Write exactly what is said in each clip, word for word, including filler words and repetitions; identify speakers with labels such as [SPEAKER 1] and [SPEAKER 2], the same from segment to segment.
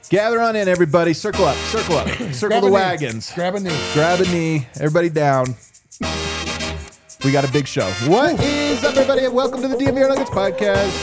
[SPEAKER 1] Gather on in, everybody. Circle up, circle up. Circle
[SPEAKER 2] Grab
[SPEAKER 1] the
[SPEAKER 2] a knee.
[SPEAKER 1] wagons.
[SPEAKER 2] Grab a knee.
[SPEAKER 1] Grab a knee. Everybody down. We got a big show. What is up, everybody? And welcome to the D M V R Nuggets podcast.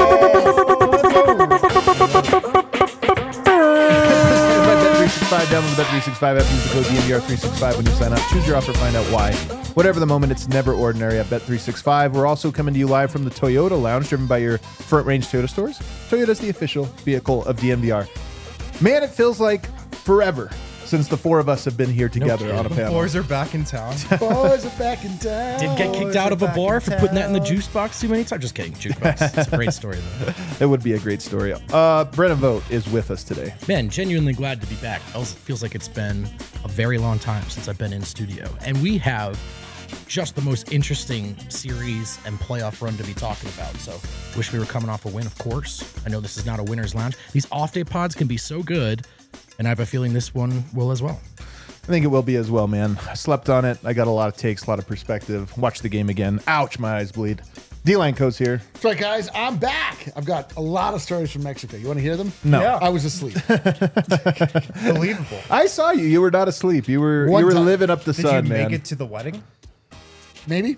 [SPEAKER 1] Bet three sixty-five. Download the Bet three sixty-five app. Use the code D M V R three sixty-five when you sign up. Choose your offer. Find out why. Whatever the moment, it's never ordinary at Bet three sixty-five. We're also coming to you live from the Toyota Lounge, driven by your Front Range Toyota stores. Toyota's the official vehicle of D M V R. Man, it feels like forever since the four of us have been here together
[SPEAKER 3] No
[SPEAKER 1] on a panel.
[SPEAKER 4] Boys are back in town.
[SPEAKER 2] Boys are back in town.
[SPEAKER 3] Did get kicked
[SPEAKER 4] Boys
[SPEAKER 3] out
[SPEAKER 4] are
[SPEAKER 3] of a
[SPEAKER 4] back
[SPEAKER 3] bar
[SPEAKER 4] in
[SPEAKER 3] for putting that in the
[SPEAKER 4] town.
[SPEAKER 3] juice box too many times. Just kidding. Jukebox. It's a great story, though.
[SPEAKER 1] It would be a great story. Uh, Brennan Vogt is with us today.
[SPEAKER 3] Man, genuinely glad to be back. It feels like it's been a very long time since I've been in studio. And we have just the most interesting series and playoff run to be talking about. So wish we were coming off a win, of course. I know this is not a winner's lounge. These off-day pods can be so good, and I have a feeling this one will as well.
[SPEAKER 1] I think it will be as well, man. I slept on it. I got a lot of takes, a lot of perspective. Watched the game again. Ouch, my eyes bleed. D-Line Co's here.
[SPEAKER 2] That's right, guys. I'm back. I've got a lot of stories from Mexico. You want to hear them?
[SPEAKER 1] No.
[SPEAKER 4] Yeah.
[SPEAKER 2] I was asleep.
[SPEAKER 4] Believable.
[SPEAKER 1] I saw you. You were not asleep. You were
[SPEAKER 2] One
[SPEAKER 1] you were
[SPEAKER 2] time.
[SPEAKER 1] living up the
[SPEAKER 4] Did
[SPEAKER 1] sun,
[SPEAKER 4] you
[SPEAKER 1] man.
[SPEAKER 4] make it to the wedding?
[SPEAKER 2] Maybe.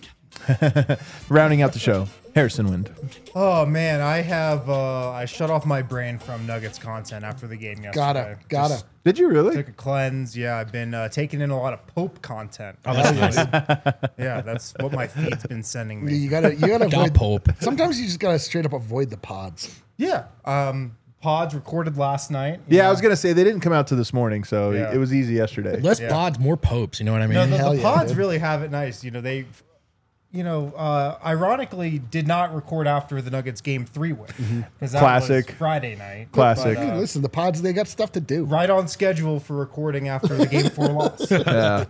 [SPEAKER 1] Rounding out the show, Harrison Wind.
[SPEAKER 4] Oh man, I have uh, I shut off my brain from Nuggets content after the game yesterday.
[SPEAKER 2] Gotta. Gotta.
[SPEAKER 4] Just
[SPEAKER 1] Did you really?
[SPEAKER 4] took a cleanse. Yeah, I've been uh, taking in a lot of Pope content.
[SPEAKER 3] Oh, that's nice.
[SPEAKER 4] Yeah, that's what my feed's been sending me.
[SPEAKER 2] You gotta. You gotta
[SPEAKER 3] Da
[SPEAKER 2] avoid.
[SPEAKER 3] Pope.
[SPEAKER 2] Sometimes you just gotta straight up avoid the pods.
[SPEAKER 4] Yeah. Um, pods recorded last night. you
[SPEAKER 1] Yeah, I
[SPEAKER 4] know.
[SPEAKER 1] was gonna say they didn't come out to this morning, so
[SPEAKER 4] Yeah.
[SPEAKER 1] it was easy yesterday.
[SPEAKER 3] Less
[SPEAKER 4] Yeah.
[SPEAKER 3] pods, more popes. You know what I mean?
[SPEAKER 4] No, the,
[SPEAKER 2] Hell
[SPEAKER 4] the
[SPEAKER 2] yeah,
[SPEAKER 4] pods
[SPEAKER 2] dude.
[SPEAKER 4] really have it nice. You know, they, you know, uh, ironically did not record after the Nuggets game three win because that
[SPEAKER 1] Classic.
[SPEAKER 4] was Friday night.
[SPEAKER 1] Classic.
[SPEAKER 4] But,
[SPEAKER 2] Hey,
[SPEAKER 4] uh,
[SPEAKER 2] listen, the pods, they got stuff to do.
[SPEAKER 4] right on schedule for recording after the game four loss.
[SPEAKER 1] Yeah.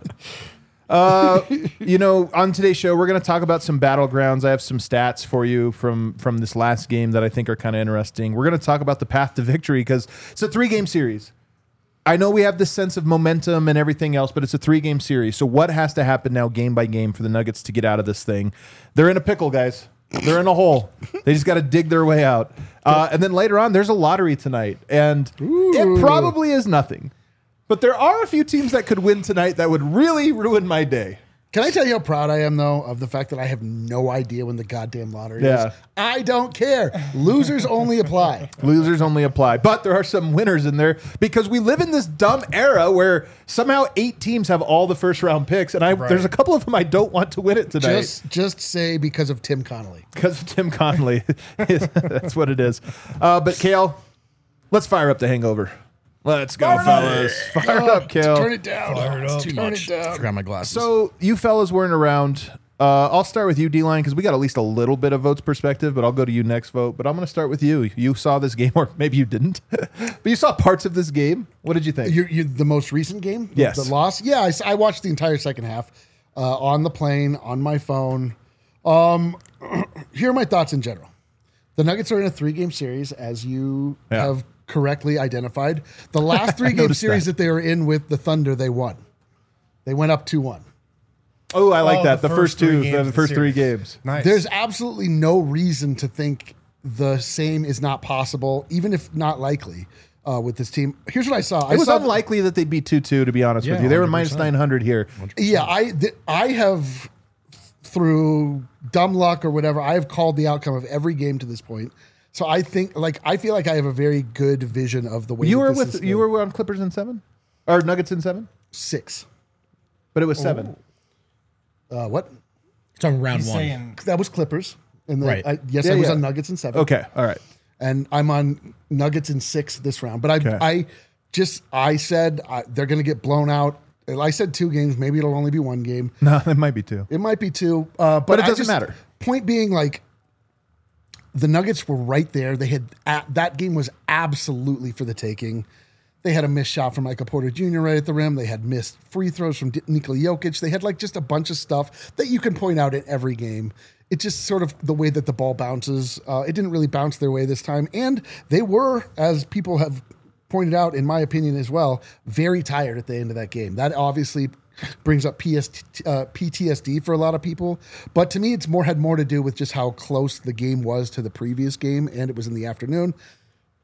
[SPEAKER 1] Uh, you know, on today's show, we're going to talk about some battlegrounds. I have some stats for you from from this last game that I think are kind of interesting. We're going to talk about the path to victory because it's a three-game series. I know we have this sense of momentum and everything else, but it's a three-game series. So what has to happen now game by game for the Nuggets to get out of this thing? They're in a pickle, guys. They're in a hole. They just got to dig their way out. Uh, and then later on, there's a lottery tonight. And it probably is nothing. But there are a few teams that could win tonight that would really ruin my day.
[SPEAKER 2] Can I tell you how proud I am, though, of the fact that I have no idea when the goddamn lottery
[SPEAKER 1] Yeah.
[SPEAKER 2] is? I don't care. Losers only apply.
[SPEAKER 1] Losers only apply. But there are some winners in there because we live in this dumb era where somehow eight teams have all the first round picks. And I
[SPEAKER 4] Right.
[SPEAKER 1] there's a couple of them I don't want to win it tonight.
[SPEAKER 2] Just, just say because of Tim Connolly.
[SPEAKER 1] Because of Tim Conley. That's what it is. Uh, but Kale, let's fire up the hangover. Let's go, fellas. Fire it up, Kale.
[SPEAKER 2] Turn it down.
[SPEAKER 3] It's too
[SPEAKER 2] Turn
[SPEAKER 3] much.
[SPEAKER 2] it down.
[SPEAKER 3] Forgot my glasses.
[SPEAKER 1] So you fellas weren't around. Uh, I'll start with you, D-Line, because we got at least a little bit of Vote's perspective, but I'll go to you next, Vote. But I'm going to start with you. You saw this game, or maybe you didn't, but you saw parts of this game. What did you think?
[SPEAKER 2] You, you, the most recent game? The-
[SPEAKER 1] Yes.
[SPEAKER 2] The loss? Yeah, I, s- I watched the entire second half uh, on the plane, on my phone. Um, here are my thoughts in general. The Nuggets are in a three-game series, as you
[SPEAKER 1] Yeah.
[SPEAKER 2] have correctly identified. The last three-game
[SPEAKER 1] noticed
[SPEAKER 2] series
[SPEAKER 1] that.
[SPEAKER 2] that. they were in with the Thunder, they won. They went up two one.
[SPEAKER 1] oh, I like
[SPEAKER 4] Oh,
[SPEAKER 1] that. The,
[SPEAKER 4] the
[SPEAKER 1] first,
[SPEAKER 4] first three
[SPEAKER 1] two,
[SPEAKER 4] games
[SPEAKER 1] the
[SPEAKER 4] of the
[SPEAKER 1] first three
[SPEAKER 4] series.
[SPEAKER 1] games.
[SPEAKER 4] Nice.
[SPEAKER 2] There's absolutely no reason to think the same is not possible, even if not likely, uh, with this team. Here's what I saw. I
[SPEAKER 1] It was
[SPEAKER 2] saw
[SPEAKER 1] unlikely that they'd be two two, to be honest with
[SPEAKER 3] Yeah,
[SPEAKER 1] you. They were
[SPEAKER 3] one hundred
[SPEAKER 1] minus
[SPEAKER 3] percent.
[SPEAKER 1] nine hundred here.
[SPEAKER 2] Yeah, I th- I have through dumb luck or whatever, I have called the outcome of every game to this point. So I think, like, I feel like I have a very good vision of the way
[SPEAKER 1] You
[SPEAKER 2] that
[SPEAKER 1] were
[SPEAKER 2] this
[SPEAKER 1] with
[SPEAKER 2] is
[SPEAKER 1] you
[SPEAKER 2] going.
[SPEAKER 1] were on Clippers in seven? Or Nuggets in seven?
[SPEAKER 2] six.
[SPEAKER 1] But it was seven.
[SPEAKER 2] Uh, what?
[SPEAKER 3] it's on round
[SPEAKER 4] He's
[SPEAKER 3] one.
[SPEAKER 4] saying
[SPEAKER 2] That was Clippers. And then
[SPEAKER 3] Right.
[SPEAKER 2] I, yes,
[SPEAKER 1] Yeah,
[SPEAKER 2] I was
[SPEAKER 1] yeah.
[SPEAKER 2] on Nuggets in seven.
[SPEAKER 1] Okay, all right.
[SPEAKER 2] And I'm on Nuggets in six this round. But I,
[SPEAKER 1] Okay.
[SPEAKER 2] I just I said I, they're going to get blown out. I said two games. Maybe it'll only be one game.
[SPEAKER 1] No, it might be two.
[SPEAKER 2] It might be two, uh, but,
[SPEAKER 1] But it
[SPEAKER 2] I
[SPEAKER 1] doesn't
[SPEAKER 2] just-
[SPEAKER 1] matter.
[SPEAKER 2] Point being, like, the Nuggets were right there. They had a that game was absolutely for the taking. They had a missed shot from Michael Porter Junior right at the rim. They had missed free throws from D- Nikola Jokic. They had like just a bunch of stuff that you can point out in every game. It just sort of the way that the ball bounces. Uh, it didn't really bounce their way this time, and they were, as people have pointed out, in my opinion as well, very tired at the end of that game. That obviously brings up P S T, uh, P T S D for a lot of people. But to me, it's more had more to do with just how close the game was to the previous game, and it was in the afternoon.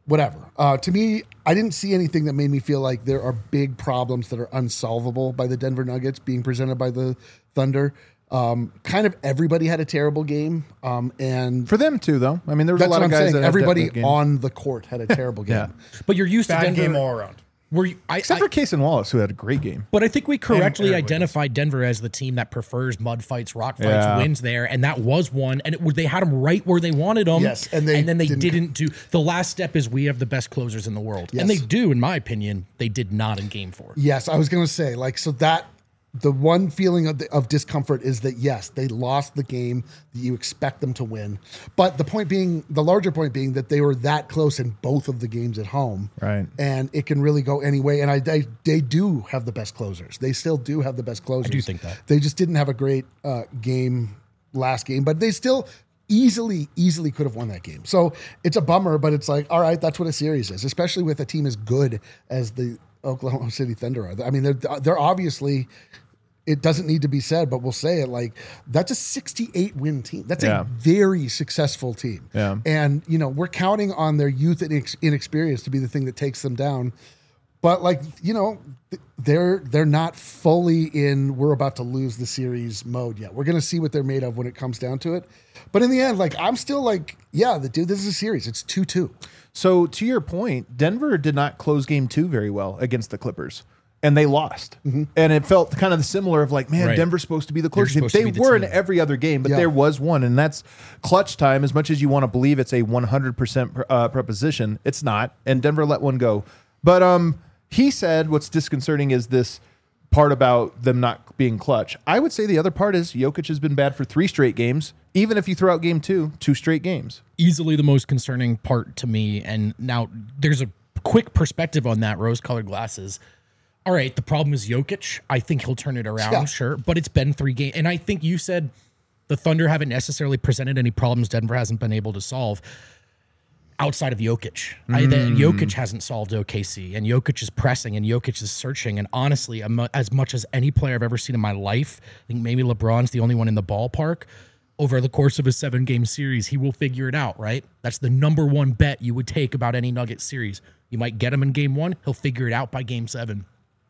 [SPEAKER 2] whatever. Uh, to me, I didn't see anything that made me feel like there are big problems that are unsolvable by the Denver Nuggets being presented by the Thunder. Um, kind of everybody had a terrible game. Um, and
[SPEAKER 1] For them too, though. I mean, there was
[SPEAKER 2] that's
[SPEAKER 1] a lot
[SPEAKER 2] what
[SPEAKER 1] of
[SPEAKER 2] I'm
[SPEAKER 1] guys
[SPEAKER 2] saying.
[SPEAKER 1] that had
[SPEAKER 2] Everybody
[SPEAKER 1] good games.
[SPEAKER 2] on the court had a terrible game.
[SPEAKER 1] Yeah.
[SPEAKER 3] But you're used
[SPEAKER 4] Bad
[SPEAKER 3] to Denver.
[SPEAKER 4] game all around.
[SPEAKER 3] Were you, I,
[SPEAKER 1] Except
[SPEAKER 3] I-
[SPEAKER 1] for Case and Wallace, who had a great game.
[SPEAKER 3] But I think we correctly
[SPEAKER 4] Aaron Williams.
[SPEAKER 3] identified Denver as the team that prefers mud fights, rock fights,
[SPEAKER 1] Yeah.
[SPEAKER 3] wins there, and that was one. And it, was- they had them right where they wanted them.
[SPEAKER 2] Yes, and they
[SPEAKER 3] then they
[SPEAKER 2] didn't-
[SPEAKER 3] didn't, do. The last step is we have the best closers in the world,
[SPEAKER 2] Yes.
[SPEAKER 3] and they do, in my opinion. They did not in Game Four.
[SPEAKER 2] Yes, I was going to say, like, so that the one feeling of, the, of discomfort is that, yes, they lost the game that you expect them to win. But the point being, the larger point being that they were that close in both of the games at home.
[SPEAKER 1] Right.
[SPEAKER 2] And it can really go any way. And I, I they do have the best closers. They still do have the best closers.
[SPEAKER 3] I do think that.
[SPEAKER 2] They just didn't have a great uh, game last game, but they still easily, easily could have won that game. So it's a bummer, but it's like, all right, that's what a series is, especially with a team as good as the Oklahoma City Thunder are. I mean, they're they're obviously, it doesn't need to be said, but we'll say it, like, that's a sixty-eight win team. That's
[SPEAKER 1] Yeah.
[SPEAKER 2] a very successful team.
[SPEAKER 1] Yeah.
[SPEAKER 2] And, you know, we're counting on their youth and inex- inexperience to be the thing that takes them down. But, like, you know, th- they're they're not fully in we're about to lose the series mode yet. We're going to see what they're made of when it comes down to it. But in the end, like, I'm still like, yeah, the dude, this is a series. It's two two.
[SPEAKER 1] So to your point, Denver did not close game two very well against the Clippers. And they lost.
[SPEAKER 2] Mm-hmm.
[SPEAKER 1] And it felt kind of similar of like, man,
[SPEAKER 3] Right.
[SPEAKER 1] Denver's supposed to be the
[SPEAKER 3] They're
[SPEAKER 1] closer team.
[SPEAKER 3] supposed to
[SPEAKER 1] They
[SPEAKER 3] be the
[SPEAKER 1] were
[SPEAKER 3] team.
[SPEAKER 1] in every other game, but
[SPEAKER 2] Yeah.
[SPEAKER 1] there was one. And that's clutch time. As much as you want to believe it's a one hundred percent uh, preposition, it's not. And Denver let one go. But um, he said what's disconcerting is this part about them not being clutch. I would say the other part is Jokic has been bad for three straight games. Even if you throw out game two, two straight games.
[SPEAKER 3] Easily the most concerning part to me. And now there's a quick perspective on that, rose-colored glasses. All right, the problem is Jokic. I think he'll turn it around,
[SPEAKER 2] Yeah.
[SPEAKER 3] sure. But it's been three games. And I think you said the Thunder haven't necessarily presented any problems Denver hasn't been able to solve outside of Jokic. I, the, Jokic hasn't solved O K C, and Jokic is pressing, and Jokic is searching. And honestly, am- as much as any player I've ever seen in my life, I think maybe LeBron's the only one in the ballpark. Over the course of a seven-game series, he will figure it out, right? That's the number one bet you would take about any Nuggets series. You might get him in game one. He'll figure it out by game seven.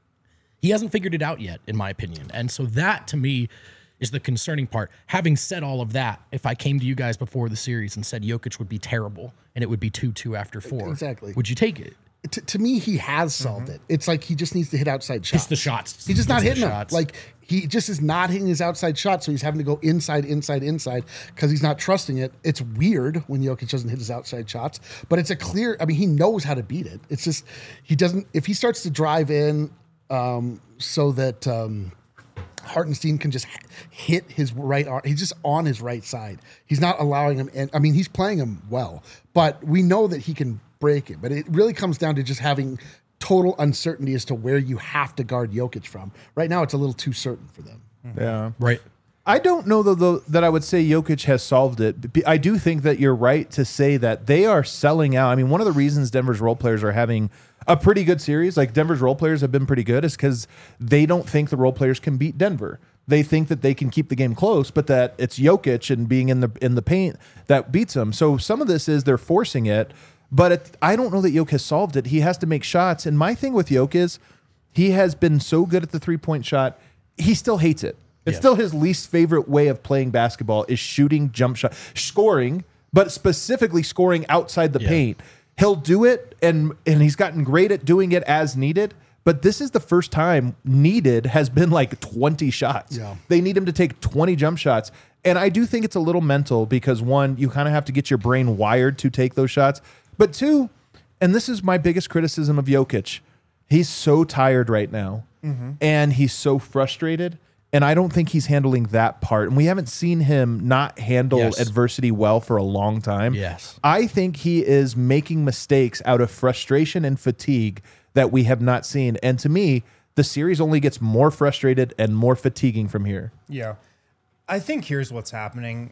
[SPEAKER 3] He hasn't figured it out yet, in my opinion. And so that, to me, is the concerning part. Having said all of that, if I came to you guys before the series and said Jokic would be terrible and it would be two two after four,
[SPEAKER 2] Exactly.
[SPEAKER 3] would you take it?
[SPEAKER 2] To, to me, he has solved it. It's like he just needs to hit outside shots.
[SPEAKER 3] It's the shots.
[SPEAKER 2] He's just not
[SPEAKER 3] It's the
[SPEAKER 2] hitting them.
[SPEAKER 3] shots.
[SPEAKER 2] Like, he just is not hitting his outside shot, so he's having to go inside, inside, inside because he's not trusting it. It's weird when Jokic doesn't hit his outside shots, but it's a clear, I mean, he knows how to beat it. It's just, he doesn't, if he starts to drive in um, so that um, Hartenstein can just hit his right arm, he's just on his right side. He's not allowing him, and I mean, he's playing him well, but we know that he can break it. But it really comes down to just having total uncertainty as to where you have to guard Jokic from. Right now, it's a little too certain for them.
[SPEAKER 1] Yeah.
[SPEAKER 3] Right.
[SPEAKER 1] I don't know though, though that I would say Jokic has solved it. B- I do think that you're right to say that they are selling out. I mean, one of the reasons Denver's role players are having a pretty good series, like Denver's role players have been pretty good, is because they don't think the role players can beat Denver. They think that they can keep the game close, but that it's Jokic and being in the in the paint that beats them. So some of this is they're forcing it, but it, I don't know that Jokic has solved it. He has to make shots, and my thing with Jokic is he has been so good at the three point shot. He still hates it. It's
[SPEAKER 3] Yeah.
[SPEAKER 1] still his least favorite way of playing basketball is shooting jump shot, scoring, but specifically scoring outside the
[SPEAKER 3] Yeah.
[SPEAKER 1] paint. He'll do it, and and he's gotten great at doing it as needed. But this is the first time needed has been like twenty shots.
[SPEAKER 2] Yeah.
[SPEAKER 1] They need him to take twenty jump shots. And I do think it's a little mental because one, you kind of have to get your brain wired to take those shots. But two, and this is my biggest criticism of Jokic, he's so tired right now. And he's so frustrated. And I don't think he's handling that part. And we haven't seen him not handle
[SPEAKER 3] Yes.
[SPEAKER 1] adversity well for a long time.
[SPEAKER 3] Yes.
[SPEAKER 1] I think he is making mistakes out of frustration and fatigue that we have not seen. And to me, the series only gets more frustrated and more fatiguing from here.
[SPEAKER 4] Yeah. I think here's what's happening.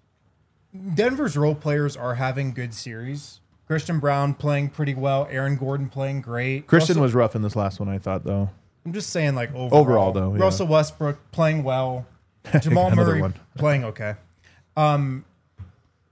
[SPEAKER 4] Denver's role players are having good series. Christian Brown playing pretty well. Aaron Gordon playing great.
[SPEAKER 1] Christian
[SPEAKER 4] Russell-
[SPEAKER 1] was rough in this last one, I thought, though.
[SPEAKER 4] I'm just saying, like, overall.
[SPEAKER 1] Overall, though, yeah.
[SPEAKER 4] Russell Westbrook playing well. Jamal
[SPEAKER 1] Another
[SPEAKER 4] Murray
[SPEAKER 1] one.
[SPEAKER 4] playing okay. Um,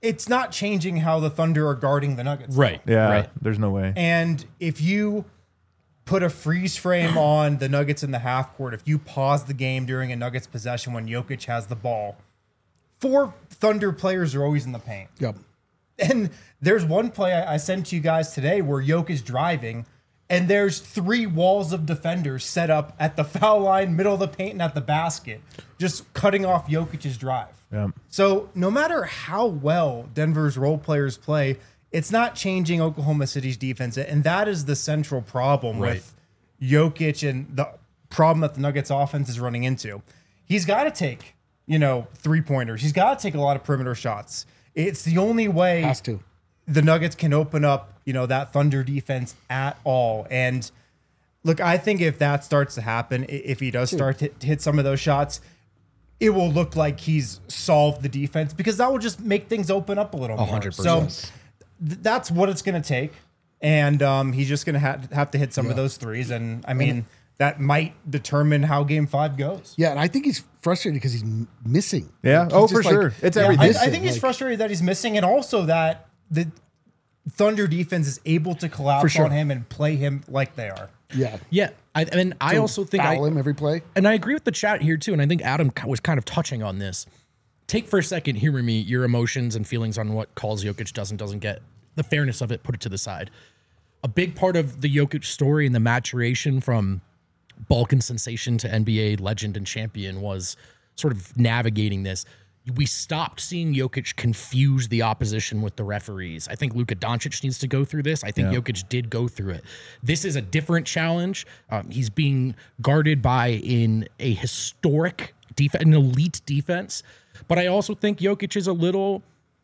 [SPEAKER 4] it's not changing how the Thunder are guarding the Nuggets.
[SPEAKER 3] Right.
[SPEAKER 1] Yeah,
[SPEAKER 3] Right.
[SPEAKER 1] there's no way.
[SPEAKER 4] And if you put a freeze frame on the Nuggets in the half court, if you pause the game during a Nuggets possession when Jokic has the ball, four Thunder players are always in the paint.
[SPEAKER 2] Yep.
[SPEAKER 4] And there's one play I, I sent to you guys today where Jokic is driving, and there's three walls of defenders set up at the foul line, middle of the paint, and at the basket, just cutting off Jokic's drive.
[SPEAKER 1] Yeah.
[SPEAKER 4] So no matter how well Denver's role players play, it's not changing Oklahoma City's defense. And that is the central problem
[SPEAKER 3] Right.
[SPEAKER 4] with Jokic and the problem that the Nuggets offense is running into. He's got to take, you know, three pointers. He's got to take a lot of perimeter shots. It's the only way
[SPEAKER 2] Has to.
[SPEAKER 4] the Nuggets can open up, you know, that Thunder defense at all. And look, I think if that starts to happen, i- if he does start to hit some of those shots, it will look like he's solved the defense because that will just make things open up a little more.
[SPEAKER 3] hundred
[SPEAKER 4] So
[SPEAKER 3] percent.
[SPEAKER 4] th- that's what it's going to take. And um, he's just going to ha- have to hit some of those threes. And I mean, that might determine how game five goes.
[SPEAKER 2] Yeah, and I think he's frustrated because he's m- missing.
[SPEAKER 1] Yeah.
[SPEAKER 2] Like, he's
[SPEAKER 1] Oh,
[SPEAKER 2] just
[SPEAKER 1] for
[SPEAKER 2] like-
[SPEAKER 1] sure. It's
[SPEAKER 4] Yeah,
[SPEAKER 1] everything.
[SPEAKER 4] I, I
[SPEAKER 2] missing,
[SPEAKER 4] think he's
[SPEAKER 2] like-
[SPEAKER 4] frustrated that he's missing, and also that the Thunder defense is able to collapse
[SPEAKER 2] For sure.
[SPEAKER 4] on him and play him like they are.
[SPEAKER 2] Yeah.
[SPEAKER 3] Yeah. I, and I also think I,
[SPEAKER 2] Foul him every play.
[SPEAKER 3] and I agree with the chat here too. And I think Adam ki- was kind of touching on this. Take for a second, hear me, your emotions and feelings on what calls Jokic does and doesn't get. The fairness of it, put it to the side. A big part of the Jokic story and the maturation from Balkan sensation to N B A legend and champion was sort of navigating this. We stopped seeing Jokic confuse the opposition with the referees. I think Luka Doncic needs to go through this. I think
[SPEAKER 1] Yeah.
[SPEAKER 3] Jokic did go through it. This is a different challenge. Um, he's being guarded by in a historic defense, an elite defense. But I also think Jokic is a little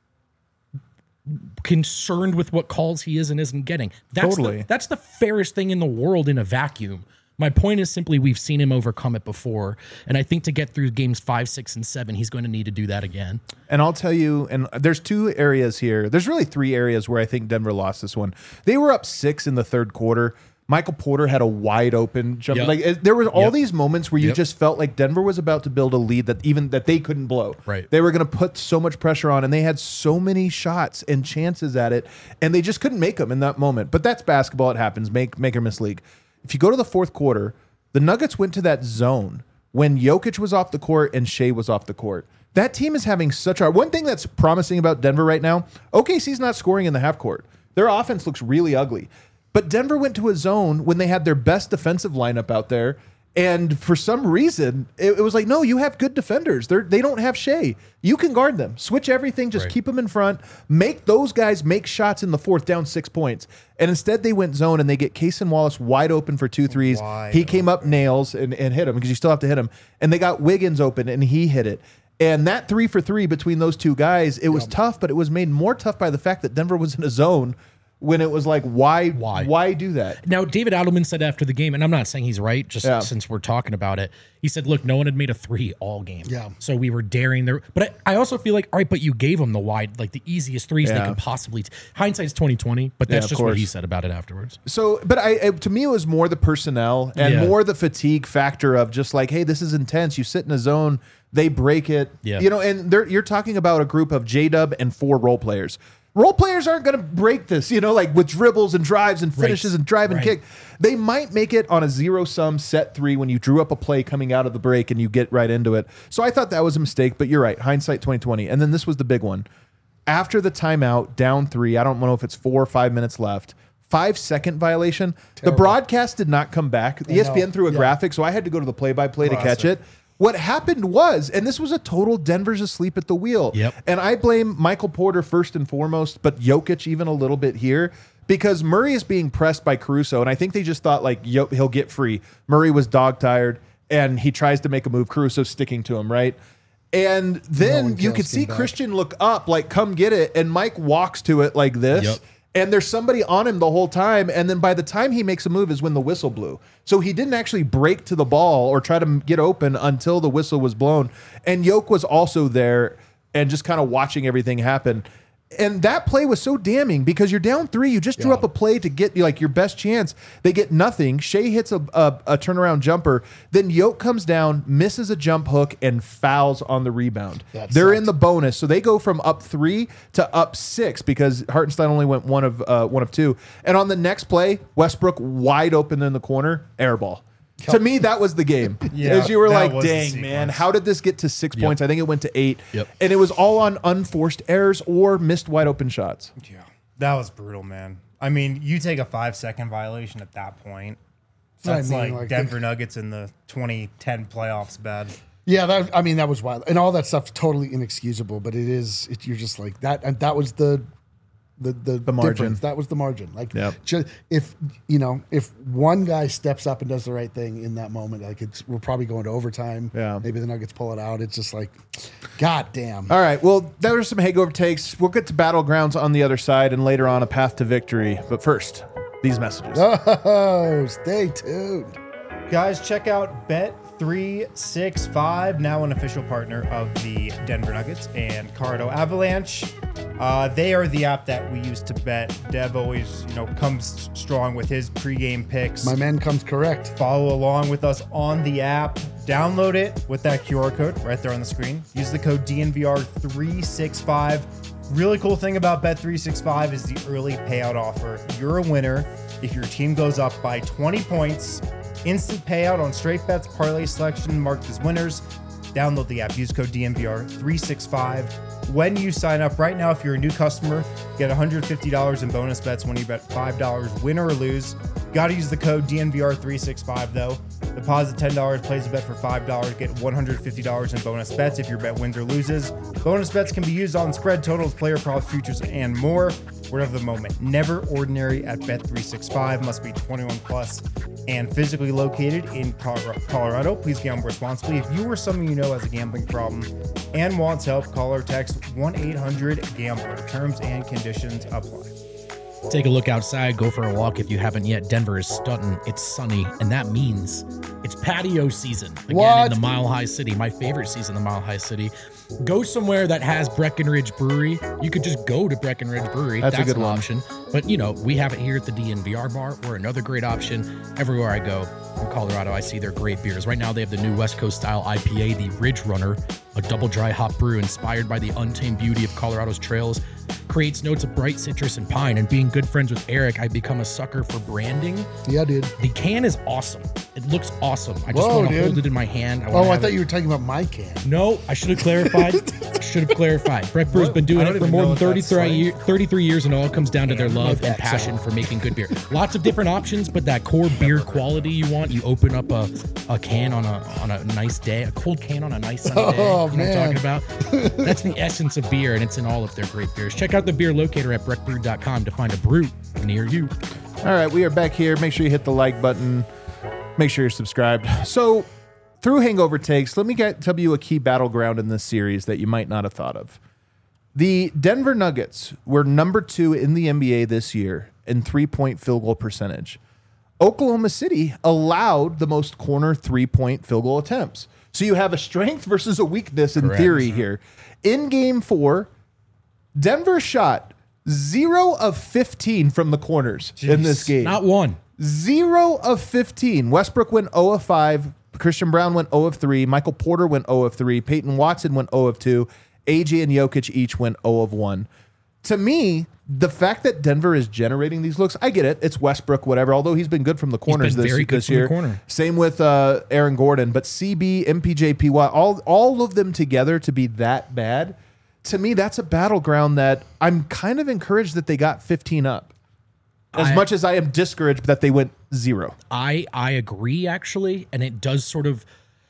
[SPEAKER 3] concerned with what calls he is and isn't getting. That's
[SPEAKER 1] Totally.
[SPEAKER 3] The, that's the fairest thing in the world in a vacuum. My point is simply we've seen him overcome it before. And I think to get through games five, six, and seven, he's going to need to do that again.
[SPEAKER 1] And I'll tell you, and there's two areas here. There's really three areas where I think Denver lost this one. They were up six in the third quarter. Michael Porter had a wide open jump.
[SPEAKER 3] Yep.
[SPEAKER 1] Like it- there were all
[SPEAKER 3] Yep.
[SPEAKER 1] these moments where you
[SPEAKER 3] Yep.
[SPEAKER 1] just felt like Denver was about to build a lead that even that they couldn't blow.
[SPEAKER 3] Right.
[SPEAKER 1] They were going to put so much pressure on, and they had so many shots and chances at it, and they just couldn't make them in that moment. But that's basketball; it happens. Make make or miss league. If you go to the fourth quarter, the Nuggets went to that zone when Jokic was off the court and Shea was off the court. That team is having such a one thing that's promising about Denver right now. O K C's not scoring in the half court. Their offense looks really ugly. But Denver went to a zone when they had their best defensive lineup out there. And for some reason, it, it was like, no, you have good defenders. They're, they don't have Shea. You can guard them. Switch everything. Just
[SPEAKER 3] Right.
[SPEAKER 1] keep them in front. Make those guys make shots in the fourth, down six points. And instead, they went zone, and they get Cason Wallace wide open for two threes.
[SPEAKER 4] Wide
[SPEAKER 1] he came up nails and, and hit him because you still have to hit him. And they got Wiggins open, and he hit it. And that three for three between those two guys, it was tough, but it was made more tough by the fact that Denver was in a zone when it was like, why,
[SPEAKER 3] Why?
[SPEAKER 1] why do that?
[SPEAKER 3] Now, David Adelman said after the game, and I'm not saying he's right, just
[SPEAKER 1] Yeah.
[SPEAKER 3] since we're talking about it, he said, look, no one had made a three all game.
[SPEAKER 2] Yeah.
[SPEAKER 3] So we were daring their, but I, I also feel like, all right, but you gave them the wide, like the easiest threes they
[SPEAKER 1] Yeah.
[SPEAKER 3] could possibly, t- hindsight's twenty twenty, but
[SPEAKER 1] Yeah,
[SPEAKER 3] that's
[SPEAKER 1] of
[SPEAKER 3] just what he
[SPEAKER 1] course.
[SPEAKER 3] said about it afterwards.
[SPEAKER 1] So, but I, it, to me, it was more the personnel and
[SPEAKER 3] Yeah.
[SPEAKER 1] more the fatigue factor of just like, hey, this is intense. You sit in a zone, they break it,
[SPEAKER 3] Yeah.
[SPEAKER 1] you know, and they're, you're talking about a group of J Dub and four role players. Role players aren't going to break this, you know, like with dribbles and drives and finishes
[SPEAKER 3] Right.
[SPEAKER 1] and drive and
[SPEAKER 3] Right.
[SPEAKER 1] kick. They might make it on a zero sum set three when you drew up a play coming out of the break and you get right into it. So I thought that was a mistake, but you're right. Hindsight twenty twenty. And then this was the big one. After the timeout, down three, I don't know if it's four or five minutes left. Five second violation. The broadcast did not come back. E S P N
[SPEAKER 2] know.
[SPEAKER 1] threw a
[SPEAKER 2] Yeah.
[SPEAKER 1] graphic, so I had to go to the play by play to catch it. What happened was, and this was a total Denver's asleep at the wheel.
[SPEAKER 3] Yep.
[SPEAKER 1] And I blame Michael Porter first and foremost, but Jokic even a little bit here because Murray is being pressed by Caruso. And I think they just thought like Yo- he'll get free. Murray was dog tired and he tries to make a move. Caruso's sticking to him, right? And then
[SPEAKER 2] one
[SPEAKER 1] you
[SPEAKER 2] Kales
[SPEAKER 1] could see
[SPEAKER 2] came back.
[SPEAKER 1] Christian look up, like, come get it. And Mike walks to it like this.
[SPEAKER 3] Yep.
[SPEAKER 1] And there's somebody on him the whole time. And then by the time he makes a move is when the whistle blew. So he didn't actually break to the ball or try to m- get open until the whistle was blown. And Yoke was also there and just kind of watching everything happen. And that play was so damning because you're down three. You just drew
[SPEAKER 2] Yeah.
[SPEAKER 1] up a play to get like your best chance. They get nothing. Shea hits a, a, a turnaround jumper. Then Yoke comes down, misses a jump hook, and fouls on the rebound.
[SPEAKER 2] That
[SPEAKER 1] They're
[SPEAKER 2] sucks.
[SPEAKER 1] in the bonus, so they go from up three to up six because Hartenstein only went one of uh, one of two. And on the next play, Westbrook wide open in the corner, air ball. To me, that was the game.
[SPEAKER 4] Yeah,
[SPEAKER 1] As you were
[SPEAKER 4] that
[SPEAKER 1] like,
[SPEAKER 4] was the
[SPEAKER 1] dang, man,
[SPEAKER 4] sequence.
[SPEAKER 1] how did this get to six points? I think it went to eight.
[SPEAKER 3] Yep.
[SPEAKER 1] And it was all on unforced errors or missed wide open shots.
[SPEAKER 4] Yeah, that was brutal, man. I mean, you take a five second violation at that point.
[SPEAKER 2] what I
[SPEAKER 4] That's
[SPEAKER 2] mean,
[SPEAKER 4] like,
[SPEAKER 2] like,
[SPEAKER 4] Denver Nuggets in the twenty ten playoffs bad.
[SPEAKER 2] Yeah, that I mean that was wild, and all that stuff's totally inexcusable. But it is, it, you're just like that, and that was the the the,
[SPEAKER 1] The margin.
[SPEAKER 2] difference. That was the margin. Like,
[SPEAKER 1] Yep.
[SPEAKER 2] ju- if you know, if one guy steps up and does the right thing in that moment, like it's we're probably going to overtime.
[SPEAKER 1] Yeah.
[SPEAKER 2] maybe the Nuggets pull it out. It's just like, god damn.
[SPEAKER 1] All right. Well, there were some hangover takes. We'll get to battlegrounds on the other side and later on a path to victory. But first, these messages.
[SPEAKER 2] Oh, stay tuned.
[SPEAKER 4] Guys, check out Bet three sixty-five, now an official partner of the Denver Nuggets and Colorado Avalanche. Uh, they are the app that we use to bet. Dev always, you know, comes strong with his pregame picks.
[SPEAKER 2] My man comes correct.
[SPEAKER 4] Follow along with us on the app. Download it with that Q R code right there on the screen. Use the code D N V R three sixty-five. Really cool thing about Bet three sixty-five is the early payout offer. You're a winner if your team goes up by twenty points. Instant payout on straight bets, parlay selection marked as winners. Download the app. Use code D N V R three sixty-five. When you sign up right now, if you're a new customer, get one hundred fifty dollars in bonus bets when you bet five dollars, win or lose. Got to use the code D N V R three sixty-five though. Deposit ten dollars, place a bet for five dollars, get one hundred fifty dollars in bonus bets if your bet wins or loses. Bonus bets can be used on spread, totals, player props, futures, and more. Word of the moment. Never ordinary at Bet three sixty-five. Must be twenty-one plus and physically located in Colorado. Please gamble responsibly. If you or someone you know has a gambling problem and wants help, call or text one eight hundred gambler. Terms and conditions apply.
[SPEAKER 3] Take a look outside, go for a walk if you haven't yet. Denver is stunning. It's sunny, and that means it's patio season again
[SPEAKER 2] What?
[SPEAKER 3] in the Mile High City. My favorite season, the Mile High City. Go somewhere that has Breckenridge Brewery. You could just go to Breckenridge Brewery.
[SPEAKER 1] That's a good
[SPEAKER 3] an
[SPEAKER 1] one.
[SPEAKER 3] option. But you know, we have it here at the D N V R bar. We're another great option. Everywhere I go in Colorado, I see their great beers. Right now, they have the new West Coast style I P A, the Ridge Runner, a double dry hop brew inspired by the untamed beauty of Colorado's trails. Creates notes of bright citrus and pine. And being good friends with Eric, I've become a sucker for branding.
[SPEAKER 2] Yeah, dude.
[SPEAKER 3] The can is awesome. It looks awesome. I just
[SPEAKER 2] Whoa,
[SPEAKER 3] want to
[SPEAKER 2] dude.
[SPEAKER 3] hold it in my hand. I
[SPEAKER 2] Oh,
[SPEAKER 3] wanna
[SPEAKER 2] I
[SPEAKER 3] have
[SPEAKER 2] thought
[SPEAKER 3] it-
[SPEAKER 2] you were talking about my can.
[SPEAKER 3] No, I should have clarified. should have clarified. Breck Brew's been doing
[SPEAKER 4] I
[SPEAKER 3] it
[SPEAKER 4] don't
[SPEAKER 3] for
[SPEAKER 4] even
[SPEAKER 3] more
[SPEAKER 4] know
[SPEAKER 3] than
[SPEAKER 4] what that's
[SPEAKER 3] thirty-three,
[SPEAKER 4] like.
[SPEAKER 3] year, thirty-three years, and it all comes down to their love
[SPEAKER 2] my
[SPEAKER 3] and
[SPEAKER 2] back,
[SPEAKER 3] passion
[SPEAKER 2] so-
[SPEAKER 3] for making good beer. Lots of different options, but that core beer quality you want, you open up a, a can on a on a nice day, a cold can on a nice sunny day.
[SPEAKER 2] Oh,
[SPEAKER 3] you know what I'm
[SPEAKER 2] man.
[SPEAKER 3] talking about? That's the essence of beer, and it's in all of their great beers. Check out the beer locator at breck brew dot com to find a brew near you.
[SPEAKER 1] All right, we are back here. Make sure you hit the like button. Make sure you're subscribed. So, through Hangover Takes, let me get, tell you a key battleground in this series that you might not have thought of. The Denver Nuggets were number two in the N B A this year in three-point field goal percentage. Oklahoma City allowed the most corner three-point field goal attempts. So you have a strength versus a weakness in
[SPEAKER 3] Correct.
[SPEAKER 1] theory here. In game four, Denver shot zero of fifteen from the corners in this game.
[SPEAKER 3] Not one.
[SPEAKER 1] Zero of fifteen. Westbrook went zero of five. Christian Brown went zero of three. Michael Porter went zero of three. Peyton Watson went zero of two. A J and Jokic each went zero of one. To me, the fact that Denver is generating these looks, I get it. It's Westbrook, whatever, although he's been good from the corners
[SPEAKER 3] been
[SPEAKER 1] this,
[SPEAKER 3] very good
[SPEAKER 1] this
[SPEAKER 3] from the
[SPEAKER 1] year.
[SPEAKER 3] corner.
[SPEAKER 1] Same with uh, Aaron Gordon. But C B, M P J, P Y, all, all of them together to be that bad, to me, that's a battleground that I'm kind of encouraged that they got fifteen up. As
[SPEAKER 3] I-
[SPEAKER 1] much as I am discouraged that they went zero.
[SPEAKER 3] I I agree actually, and it does sort of.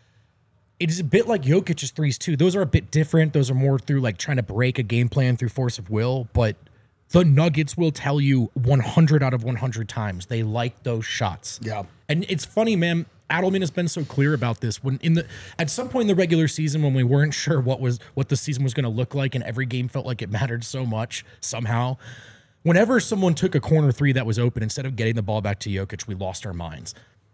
[SPEAKER 3] It is a bit like Jokic's threes too. Those are a bit different. Those are more through like trying to break a game plan through force of will. But the Nuggets will tell you one hundred out of one hundred times they like those shots.
[SPEAKER 2] Yeah.
[SPEAKER 3] And it's funny, man. Adelman has been so clear about this. When in the at some point in the regular season, when we weren't sure what was what the season was going to look like, and every game felt like it mattered so much somehow. Whenever someone took a corner three that was open, instead of getting the ball back to Jokic, we lost our minds.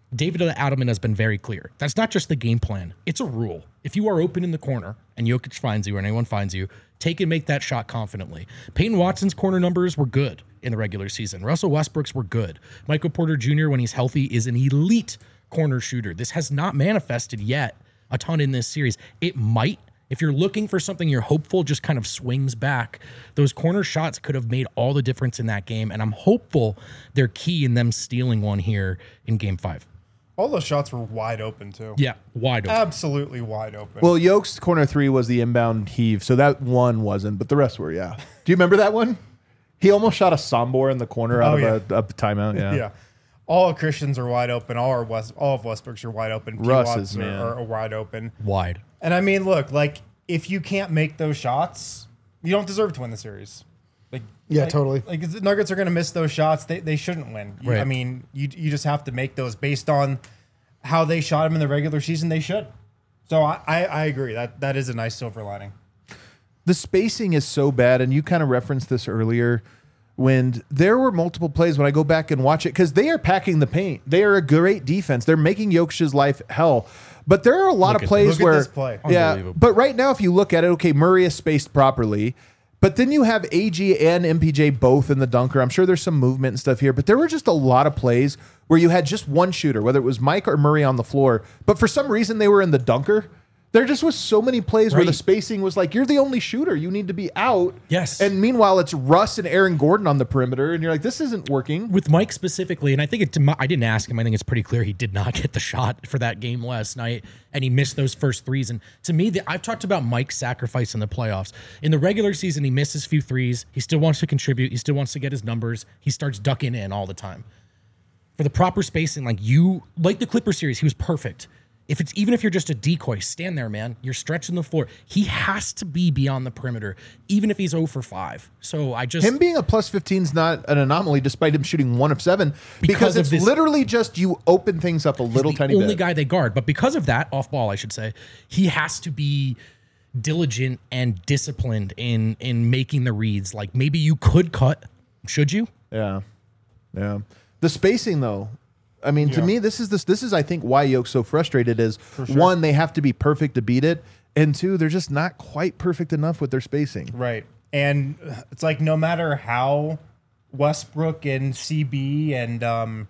[SPEAKER 3] David Adelman has been very clear. That's not just the game plan. It's a rule. If you are open in the corner and Jokic finds you or anyone finds you, take and make that shot confidently. Peyton Watson's corner numbers were good in the regular season. Russell Westbrook's were good. Michael Porter Junior, when he's healthy, is an elite corner shooter. This has not manifested yet a ton in this series. It might. If you're looking for something you're hopeful just kind of swings back, those corner shots could have made all the difference in that game, and I'm hopeful they're key in them stealing one here in game five.
[SPEAKER 4] All those shots were wide open, too.
[SPEAKER 3] Yeah, wide open.
[SPEAKER 4] Absolutely wide open.
[SPEAKER 1] Well, Yoke's corner three was the inbound heave, so that one wasn't, but the rest were, yeah. Do you remember that one? He almost shot a Sombor in the corner out
[SPEAKER 4] Oh,
[SPEAKER 1] of
[SPEAKER 4] yeah.
[SPEAKER 1] a, a timeout, yeah.
[SPEAKER 4] yeah. All of Christians are wide open. All our West, all of Westbrook's are wide open. P.
[SPEAKER 1] Russ's,
[SPEAKER 4] Watts are,
[SPEAKER 1] man.
[SPEAKER 4] are, are wide open.
[SPEAKER 3] Wide.
[SPEAKER 4] And I mean, look, like, if you can't make those shots, you don't deserve to win the series. Like,
[SPEAKER 2] Yeah,
[SPEAKER 4] like-
[SPEAKER 2] totally.
[SPEAKER 4] Like, the Nuggets are going to miss those shots. They, they shouldn't win. You-
[SPEAKER 3] Right.
[SPEAKER 4] I mean, you you just have to make those based on how they shot them in the regular season. They should. So I, I, I agree. That that is a nice silver lining.
[SPEAKER 1] The spacing is so bad, and you kind of referenced this earlier when there were multiple plays when I go back and watch it, because they are packing the paint. They are a great defense. They're making Jokic's life hell. But there are a lot
[SPEAKER 3] Look
[SPEAKER 1] of
[SPEAKER 3] at-
[SPEAKER 1] plays
[SPEAKER 4] look at
[SPEAKER 1] where,
[SPEAKER 4] this play.
[SPEAKER 1] yeah.
[SPEAKER 3] Unbelievable.
[SPEAKER 1] But right now, if you look at it, okay, Murray is spaced properly, but then you have A G and M P J both in the dunker. I'm sure there's some movement and stuff here, but there were just a lot of plays where you had just one shooter, whether it was Mike or Murray on the floor, but for some reason they were in the dunker. There just was so many plays where the
[SPEAKER 3] Right.
[SPEAKER 1] spacing was like, you're the only shooter. You need to be out.
[SPEAKER 3] Yes.
[SPEAKER 1] And meanwhile, it's Russ and Aaron Gordon on the perimeter, and you're like, this isn't working.
[SPEAKER 3] With Mike specifically, and I think it, I didn't ask him. I think it's pretty clear he did not get the shot for that game last night, and he missed those first threes. And to me, the, I've talked about Mike's sacrifice in the playoffs. In the regular season, he misses a few threes. He still wants to contribute. He still wants to get his numbers. He starts ducking in all the time. For the proper spacing, like you, like the Clipper series, he was perfect. If it's even if you're just a decoy, stand there, man. You're stretching the floor. He has to be beyond the perimeter, even if he's zero for five. So I just
[SPEAKER 1] Him being a plus fifteen is not an anomaly, despite him shooting one of seven, because,
[SPEAKER 3] Because of
[SPEAKER 1] it's
[SPEAKER 3] this-
[SPEAKER 1] literally just you open things up a little
[SPEAKER 3] the
[SPEAKER 1] tiny
[SPEAKER 3] only
[SPEAKER 1] bit.
[SPEAKER 3] guy they guard. But because of that, off ball, I should say, he has to be diligent and disciplined in in making the reads. Like maybe you could cut, should you?
[SPEAKER 1] Yeah, yeah. The spacing, though. I mean, to
[SPEAKER 4] Yeah.
[SPEAKER 1] me, this is this. This is, I think, why Yoke's so frustrated. Is one, they have to be perfect to beat it, and two, they're just not quite perfect enough with their spacing.
[SPEAKER 4] Right. And it's like no matter how Westbrook and C B and um,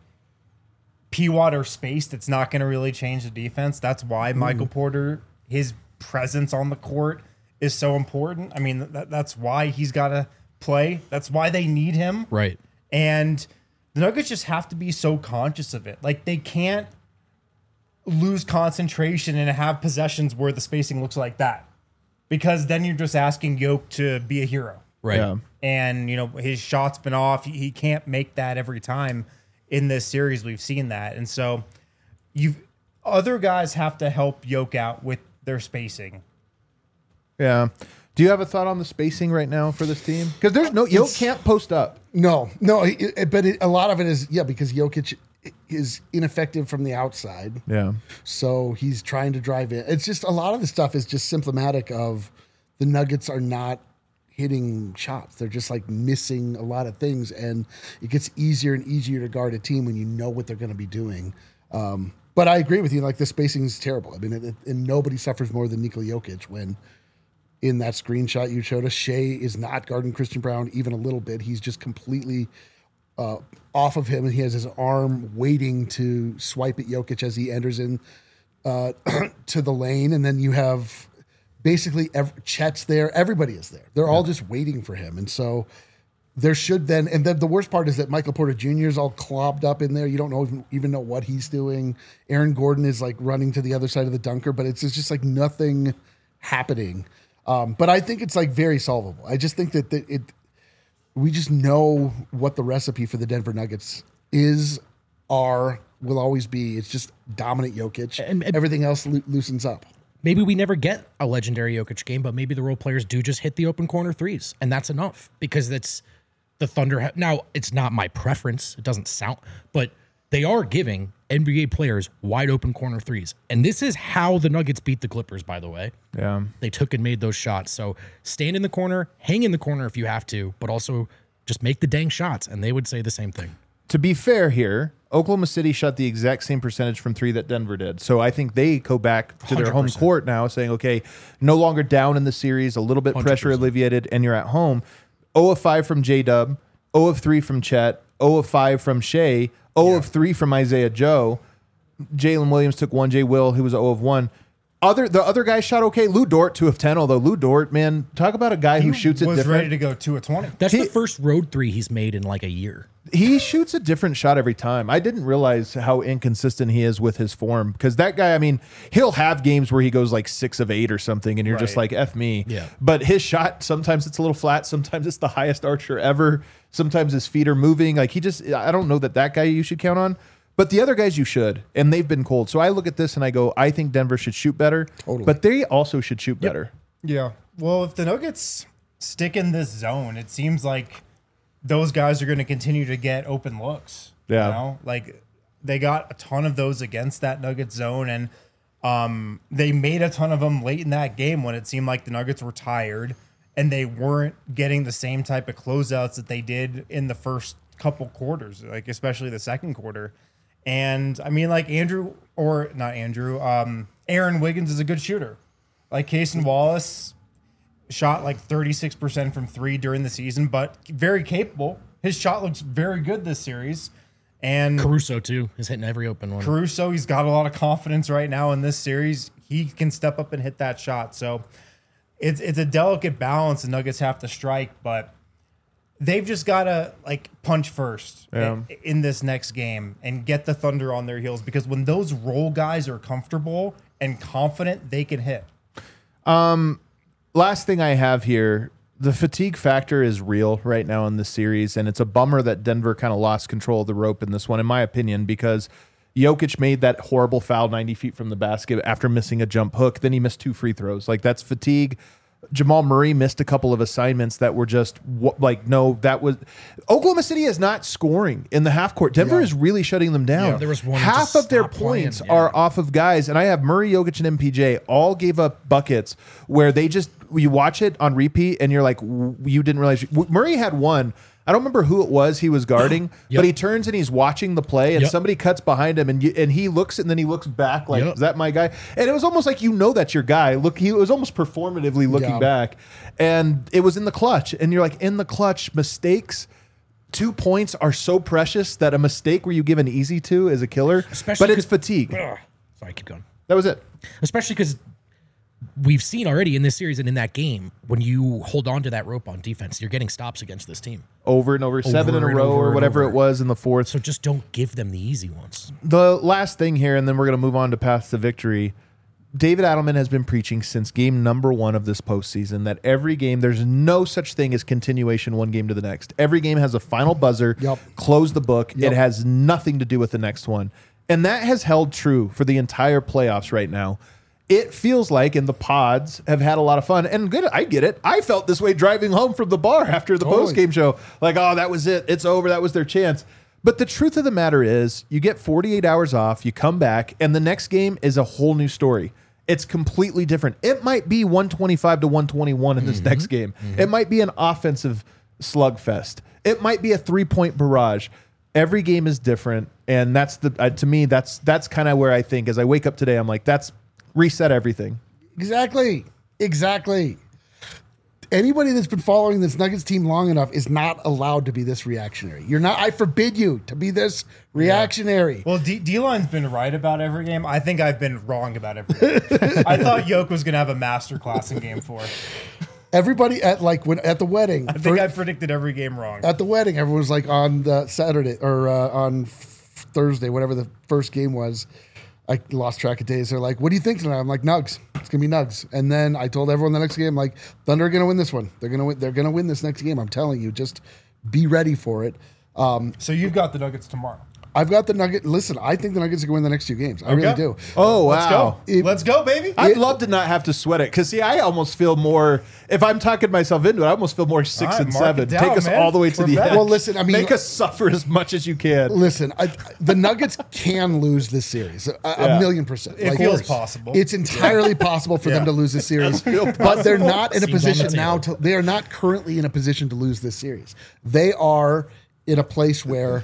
[SPEAKER 4] P. Watt are spaced, it's not going to really change the defense. That's why Michael Porter, his presence on the court is so important. I mean, that, that's why he's got to play. That's why they need him.
[SPEAKER 3] Right.
[SPEAKER 4] And the Nuggets just have to be so conscious of it. Like they can't lose concentration and have possessions where the spacing looks like that, because then you're just asking Yoke to be a hero.
[SPEAKER 3] Right.
[SPEAKER 1] Yeah.
[SPEAKER 4] And you know his shot's been off. He, he can't make that every time in this series. We've seen that, and so you other guys have to help Yoke out with their spacing.
[SPEAKER 1] Yeah. Do you have a thought on the spacing right now for this team? Because there's no Yoke can't post up.
[SPEAKER 2] No, no, it, it- but it, a lot of it is, yeah, because Jokic is ineffective from the outside.
[SPEAKER 1] Yeah.
[SPEAKER 2] So he's trying to drive in. It's just a lot of the stuff is just symptomatic of the Nuggets are not hitting shots. They're just like missing a lot of things. And it gets easier and easier to guard a team when you know what they're going to be doing. Um, but I agree with you. Like the spacing is terrible. I mean, it, it, and nobody suffers more than Nikola Jokic when in that screenshot you showed us, Shea is not guarding Christian Brown even a little bit. He's just completely uh, off of him, and he has his arm waiting to swipe at Jokic as he enters in uh, to the lane. And then you have basically ev- Chet's there. Everybody is there. They're all just waiting for him. And so there should then, and then the worst part is that Michael Porter Junior is all clobbed up in there. You don't know even, even know what he's doing. Aaron Gordon is like running to the other side of the dunker, but it's, it's just like nothing happening. Um, but I think it's like very solvable. I just think that the, it, we just know what the recipe for the Denver Nuggets is, are, will always be. It's just dominant Jokic.
[SPEAKER 3] And- and-
[SPEAKER 2] Everything else loo- loosens up.
[SPEAKER 3] Maybe we never get a legendary Jokic game, but maybe the role players do just hit the open corner threes, and that's enough because that's the Thunder. Ha- now, it's not my preference. It doesn't sound, but they are giving N B A players wide open corner threes. And this is how the Nuggets beat the Clippers, by the way.
[SPEAKER 1] Yeah.
[SPEAKER 3] They took and made those shots. So stand in the corner, hang in the corner if you have to, but also just make the dang shots. And they would say the same thing.
[SPEAKER 1] To be fair here, Oklahoma City shot the exact same percentage from three that Denver did. So I think they go back to their home
[SPEAKER 3] one hundred percent.
[SPEAKER 1] court now saying, okay, no longer down in the series, a little bit
[SPEAKER 3] one hundred
[SPEAKER 1] pressure
[SPEAKER 3] percent.
[SPEAKER 1] alleviated, and you're at home. zero of five from J-Dub, zero of three from Chet, zero of five from Shea, zero of three from Isaiah Joe. Jalen Williams took one. Jay Will, who was zero of one. Other the other guys shot okay. Lou Dort two of ten. Although Lou Dort, man, talk about a guy who shoots it
[SPEAKER 4] was
[SPEAKER 1] different.
[SPEAKER 4] ready to go two of twenty.
[SPEAKER 3] That's
[SPEAKER 1] He-
[SPEAKER 3] the first road three he's made in like a year.
[SPEAKER 1] He shoots a different shot every time. I didn't realize how inconsistent he is with his form because that guy, I mean, he'll have games where he goes like six of eight or something, and you're just
[SPEAKER 4] Right.
[SPEAKER 1] like, F me.
[SPEAKER 3] Yeah.
[SPEAKER 1] But his shot, sometimes it's a little flat, sometimes it's the highest archer ever, sometimes his feet are moving. Like he just, I don't know that that guy you should count on. But the other guys you should, and they've been cold. So I look at this and I go, I think Denver should shoot better.
[SPEAKER 2] Totally.
[SPEAKER 1] But they also should shoot better.
[SPEAKER 4] Yeah. Well, if the Nuggets stick in this zone, it seems like those guys are going to continue to get open looks.
[SPEAKER 1] Yeah.
[SPEAKER 4] You know? Like they got a ton of those against that Nuggets zone, and um, they made a ton of them late in that game when it seemed like the Nuggets were tired and they weren't getting the same type of closeouts that they did in the first couple quarters, like especially the second quarter. And I mean, like Andrew, or not Andrew, um, Aaron Wiggins is a good shooter. Like Cason Wallace shot like thirty-six percent from three during the season, but very capable. His shot looks very good this series. And
[SPEAKER 3] Caruso too is hitting every open one.
[SPEAKER 4] Caruso, he's got a lot of confidence right now in this series. He can step up and hit that shot. So it's it's a delicate balance the Nuggets have to strike, but they've just got to like punch first
[SPEAKER 1] Yeah.
[SPEAKER 4] in, in this next game and get the Thunder on their heels, because when those role guys are comfortable and confident, they can hit.
[SPEAKER 1] Last thing I have here, the fatigue factor is real right now in this series, and it's a bummer that Denver kind of lost control of the rope in this one, in my opinion, because Jokic made that horrible foul ninety feet from the basket after missing a jump hook. Then he missed two free throws. Like, that's fatigue. Jamal Murray missed a couple of assignments that were just wh- like, no, that was Oklahoma City is not scoring in the half court. Denver
[SPEAKER 2] Yeah.
[SPEAKER 1] is really shutting them down.
[SPEAKER 3] Yeah, there was one
[SPEAKER 1] half
[SPEAKER 3] to
[SPEAKER 1] of their
[SPEAKER 3] stop playing,
[SPEAKER 1] points
[SPEAKER 3] yeah.
[SPEAKER 1] are off of guys, and I have Murray, Jokic, and M P J all gave up buckets where they just, you watch it on repeat and you're like, w- you didn't realize. Murray had one. I don't remember who it was he was guarding,
[SPEAKER 3] Yep.
[SPEAKER 1] but he turns and he's watching the play, and
[SPEAKER 3] Yep.
[SPEAKER 1] somebody cuts behind him, and you, and he looks and then he looks back like,
[SPEAKER 3] Yep.
[SPEAKER 1] is that my guy? And it was almost like, you know, that's your guy. Look, he was almost performatively looking
[SPEAKER 2] Yeah.
[SPEAKER 1] back, and it was in the clutch. And you're like, in the clutch, mistakes. Two points are so precious that a mistake where you give an easy to is a killer.
[SPEAKER 3] Especially
[SPEAKER 1] but it's
[SPEAKER 3] 'cause-
[SPEAKER 1] fatigue.
[SPEAKER 3] Ugh. Sorry, keep going.
[SPEAKER 1] That was it.
[SPEAKER 3] Especially because we've seen already in this series and in that game, when you hold on to that rope on defense, you're getting stops against this team.
[SPEAKER 1] Over and over, seven in a
[SPEAKER 3] and
[SPEAKER 1] row
[SPEAKER 3] over
[SPEAKER 1] or
[SPEAKER 3] and
[SPEAKER 1] whatever
[SPEAKER 3] over.
[SPEAKER 1] it was in the fourth.
[SPEAKER 3] So just don't give them the easy ones.
[SPEAKER 1] The last thing here, and then we're going to move on to path to victory. David Adelman has been preaching since game number one of this postseason that every game, there's no such thing as continuation one game to the next. Every game has a final buzzer,
[SPEAKER 2] Yep.
[SPEAKER 1] close the book.
[SPEAKER 2] Yep.
[SPEAKER 1] It has nothing to do with the next one. And that has held true for the entire playoffs right now. It feels like, and the pods have had a lot of fun. And good, I get it. I felt this way driving home from the bar after the
[SPEAKER 2] Totally.
[SPEAKER 1] post game show. Like, oh, that was it. It's over. That was their chance. But the truth of the matter is, you get forty-eight hours off, you come back, and the next game is a whole new story. It's completely different. It might be one twenty-five to one twenty-one in this next game. It might be an offensive slugfest. It might be a three-point barrage. Every game is different, and that's the uh, to me that's that's kind of where I think as I wake up today, I'm like, that's reset everything.
[SPEAKER 2] Exactly. Exactly. Anybody that's been following this Nuggets team long enough is not allowed to be this reactionary. You're not. I forbid you to be this reactionary.
[SPEAKER 4] Well, D- D-Line's been right about every game. I think I've been wrong about every game. I thought Yoke was going to have a master class in game four.
[SPEAKER 2] Everybody at like when at the wedding.
[SPEAKER 4] I think I predicted every game wrong.
[SPEAKER 2] at the wedding, everyone was like on the Saturday or uh, on f- Thursday, whatever the first game was. I lost track of days. They're like, "What do you think tonight?" I'm like, "Nugs. It's gonna be Nugs." And then I told everyone the next game, like, "Thunder are gonna win this one. They're gonna win. They're gonna win this next game. I'm telling you, just be ready for it." Um,
[SPEAKER 4] So you've got the Nuggets tomorrow.
[SPEAKER 2] I've got the Nugget. Listen, I think the Nuggets are going to win the next two games. I really
[SPEAKER 4] Okay.
[SPEAKER 2] do.
[SPEAKER 1] Oh,
[SPEAKER 4] Let's
[SPEAKER 1] wow.
[SPEAKER 4] go.
[SPEAKER 2] It-
[SPEAKER 4] Let's go, baby.
[SPEAKER 1] I'd love to not have to sweat it because, see, I almost feel more. If I'm talking myself into it, I almost feel more six
[SPEAKER 4] All right,
[SPEAKER 1] and
[SPEAKER 4] mark
[SPEAKER 1] seven.
[SPEAKER 4] it down,
[SPEAKER 1] Take us
[SPEAKER 4] man.
[SPEAKER 1] all the way to
[SPEAKER 4] We're
[SPEAKER 1] the
[SPEAKER 4] back.
[SPEAKER 1] end.
[SPEAKER 2] Well, listen, I mean-
[SPEAKER 1] make us suffer as much as you can.
[SPEAKER 2] Listen, I, the Nuggets can lose this series, a, a
[SPEAKER 1] Yeah.
[SPEAKER 2] million percent.
[SPEAKER 4] It feels possible.
[SPEAKER 2] It's entirely possible for them
[SPEAKER 4] Yeah.
[SPEAKER 2] to lose this series, but they're not in a
[SPEAKER 3] Seems on the
[SPEAKER 2] position now
[SPEAKER 3] table.
[SPEAKER 2] to. They are not currently in a position to lose this series. They are in a place where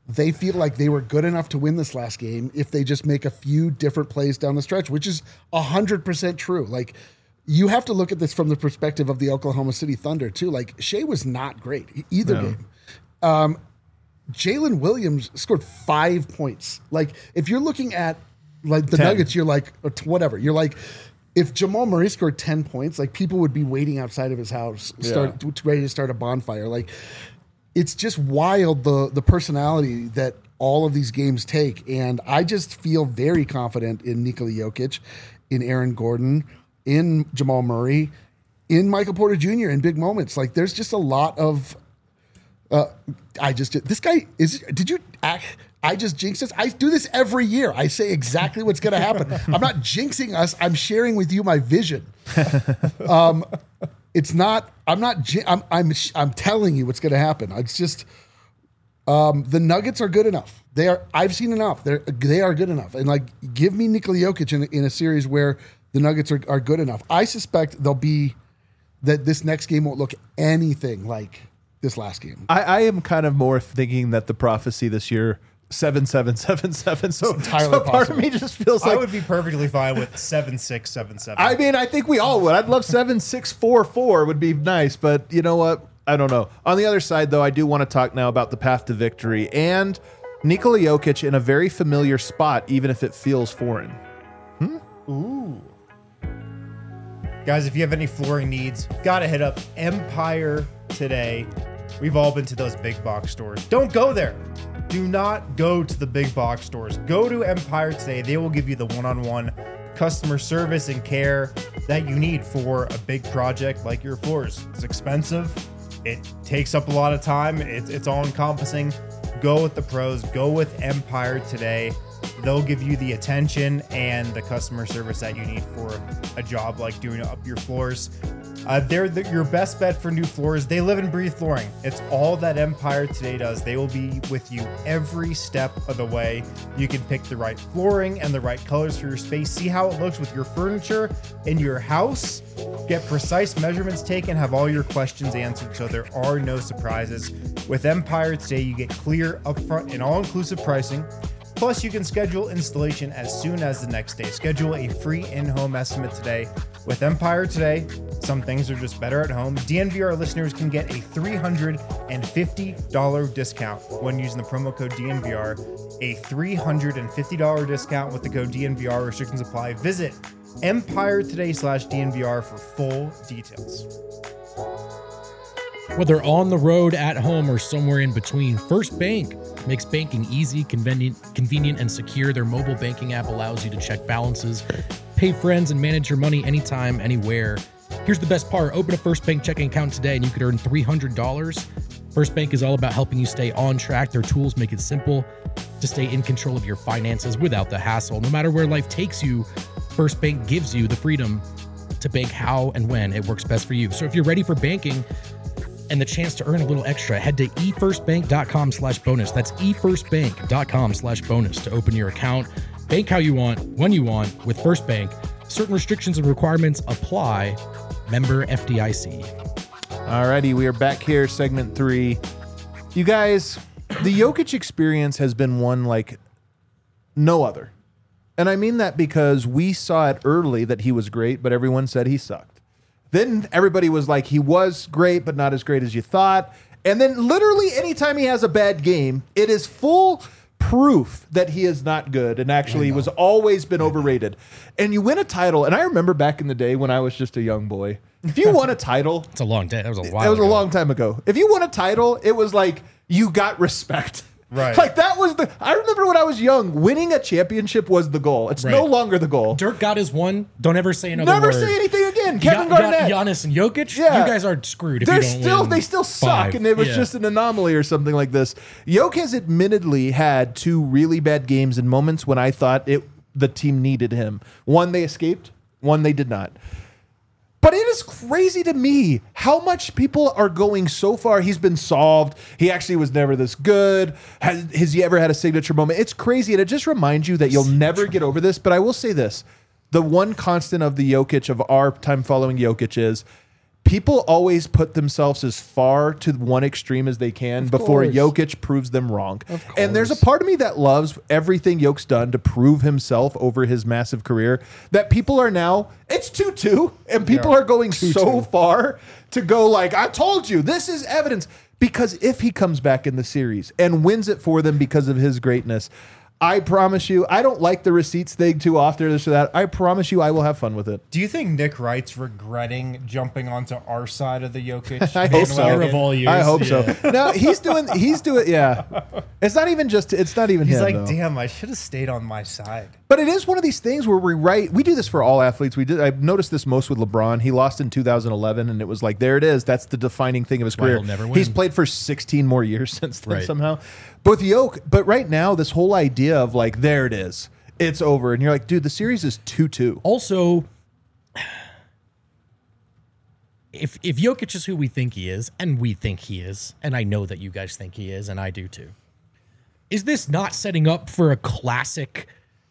[SPEAKER 2] they feel like they were good enough to win this last game if they just make a few different plays down the stretch, which is one hundred percent true. Like, you have to look at this from the perspective of the Oklahoma City Thunder, too. Like, Shea was not great e- either
[SPEAKER 1] No.
[SPEAKER 2] game. Um, Jalen Williams scored five points. Like, if you're looking at, like, the
[SPEAKER 1] ten.
[SPEAKER 2] Nuggets, you're like, or t- whatever. You're like, if Jamal Murray scored ten points, like, people would be waiting outside of his house, start,
[SPEAKER 1] Yeah.
[SPEAKER 2] to, ready to start a bonfire. Like, it's just wild, the the personality that all of these games take. And I just feel very confident in Nikola Jokic, in Aaron Gordon, in Jamal Murray, in Michael Porter Junior in big moments. Like, there's just a lot of, uh, I just, this guy is, did you act, I just jinxed us. I do this every year. I say exactly what's going to happen. I'm not jinxing us. I'm sharing with you my vision. Um, it's not, I'm not, ji- I'm, I'm, I'm telling you what's going to happen. It's just, um, the Nuggets are good enough. They are, I've seen enough. They're, they are good enough. And like, give me Nikola Jokic in, a- in a series where the Nuggets are, are good enough. I suspect they'll be, that this next game won't look anything like this last game.
[SPEAKER 1] I, I am kind of more thinking that the prophecy this year, seven, seven, seven, seven. So,
[SPEAKER 2] entirely
[SPEAKER 1] so part
[SPEAKER 2] possible.
[SPEAKER 1] of me just feels
[SPEAKER 4] I
[SPEAKER 1] like,
[SPEAKER 4] would be perfectly fine with seven six seven seven.
[SPEAKER 1] I mean, I think we all would. I'd love seven, six, four, four would be nice, but you know what? I don't know. On the other side, though, I do want to talk now about the path to victory and Nikola Jokic in a very familiar spot, even if it feels foreign.
[SPEAKER 4] Ooh. Guys, if you have any flooring needs, gotta hit up Empire today. We've all been to those big box stores. Don't go there. Do not go to the big box stores. Go to Empire today. They will give you the one-on-one customer service and care that you need for a big project like your floors. It's expensive. It takes up a lot of time. It's, it's all encompassing. Go with the pros. Go with Empire today. They'll give you the attention and the customer service that you need for a job like doing up your floors. Uh, they're the, your best bet for new floors. They live and breathe flooring. It's all that Empire today does. They will be with you every step of the way. You can pick the right flooring and the right colors for your space. See how it looks with your furniture in your house. Get precise measurements taken. Have all your questions answered so there are no surprises. With Empire today, you get clear, upfront, and all-inclusive pricing. Plus, you can schedule installation as soon as the next day. Schedule a free in-home estimate today. With Empire today, some things are just better at home. D N V R listeners can get a three hundred fifty dollars discount when using the promo code D N V R. A three hundred fifty dollars discount with the code D N V R. Restrictions apply. Visit Empire today slash D N V R for full details.
[SPEAKER 3] Whether on the road, at home, or somewhere in between, First Bank makes banking easy, convenient, convenient, and secure. Their mobile banking app allows you to check balances, pay friends, and manage your money anytime, anywhere. Here's the best part. Open a First Bank checking account today and you could earn three hundred dollars. First Bank is all about helping you stay on track. Their tools make it simple to stay in control of your finances without the hassle. No matter where life takes you, First Bank gives you the freedom to bank how and when it works best for you. So if you're ready for banking and the chance to earn a little extra, head to efirstbank.com slash bonus. That's efirstbank.com slash bonus to open your account. Bank how you want, when you want with First Bank. Certain restrictions and requirements apply. Member F D I C.
[SPEAKER 1] Alrighty, we are back here, segment three. You guys, the Jokic experience has been one like no other. And I mean that because we saw it early that he was great, but everyone said he sucked. Then everybody was like, he was great, but not as great as you thought. And then literally anytime he has a bad game, it is full proof that he is not good and actually was always been overrated. And you win a title. And I remember back in the day when I was just a young boy, if you won a title,
[SPEAKER 3] It's a long day. That was a while
[SPEAKER 1] that was a
[SPEAKER 3] ago.
[SPEAKER 1] long time ago. If you won a title, it was like you got respect.
[SPEAKER 4] Right.
[SPEAKER 1] Like that was the, I remember when I was young, winning a championship was the goal. It's no
[SPEAKER 3] Right.
[SPEAKER 1] longer the goal.
[SPEAKER 3] Dirk got his one. Don't ever say another
[SPEAKER 1] Never
[SPEAKER 3] word.
[SPEAKER 1] say anything again. Kevin
[SPEAKER 3] Gian-
[SPEAKER 1] Garnett.
[SPEAKER 3] Giannis and Jokic,
[SPEAKER 1] Yeah.
[SPEAKER 3] you guys are screwed if
[SPEAKER 1] They're
[SPEAKER 3] you don't
[SPEAKER 1] still
[SPEAKER 3] win
[SPEAKER 1] they still suck,
[SPEAKER 3] five.
[SPEAKER 1] and it was
[SPEAKER 3] Yeah.
[SPEAKER 1] just an anomaly or something like this. Jokic has admittedly had two really bad games in moments when I thought it the team needed him. One they escaped, one they did not. But it is crazy to me how much people are going so far. He's been solved. He actually was never this good. Has, has he ever had a signature moment? It's crazy. And it just reminds you that you'll never get over this. But I will say this. The one constant of the Jokic, of our time following Jokic is people always put themselves as far to one extreme as they can
[SPEAKER 2] Of
[SPEAKER 1] before
[SPEAKER 2] course.
[SPEAKER 1] Jokic proves them wrong.
[SPEAKER 2] Of
[SPEAKER 1] And there's a
[SPEAKER 2] course.
[SPEAKER 1] part of me that loves everything Jokic's done to prove himself over his massive career, that people are now, it's two two, and people
[SPEAKER 4] Yeah.
[SPEAKER 1] are going so far to go like, I told you, this is evidence. Because if he comes back in the series and wins it for them because of his greatness, I promise you, I don't like the receipts thing too often, this or that. I promise you I will have fun with it.
[SPEAKER 4] Do you think Nick Wright's regretting jumping onto our side of the Jokic?
[SPEAKER 1] I hope so.
[SPEAKER 4] bandwagon?
[SPEAKER 3] Of all years,
[SPEAKER 1] I hope
[SPEAKER 3] yeah.
[SPEAKER 1] so. No, he's doing. He's doing. Yeah, it's not even just. It's not even
[SPEAKER 4] He's
[SPEAKER 1] him.
[SPEAKER 4] like,
[SPEAKER 1] though.
[SPEAKER 4] damn, I should have stayed on my side.
[SPEAKER 1] But it is one of these things where we write. We do this for all athletes. We did. I've noticed this most with LeBron. He lost in two thousand eleven, and it was like, there it is. That's the defining thing of his
[SPEAKER 3] why
[SPEAKER 1] career.
[SPEAKER 3] he'll never
[SPEAKER 1] He's
[SPEAKER 3] win.
[SPEAKER 1] played for sixteen more years since then
[SPEAKER 3] Right.
[SPEAKER 1] somehow. But with Yoke, but right now, this whole idea of like, there it is. It's over, and you're like, dude, the series is two two.
[SPEAKER 3] Also, if if Jokic is who we think he is, and we think he is, and I know that you guys think he is, and I do too, is this not setting up for a classic?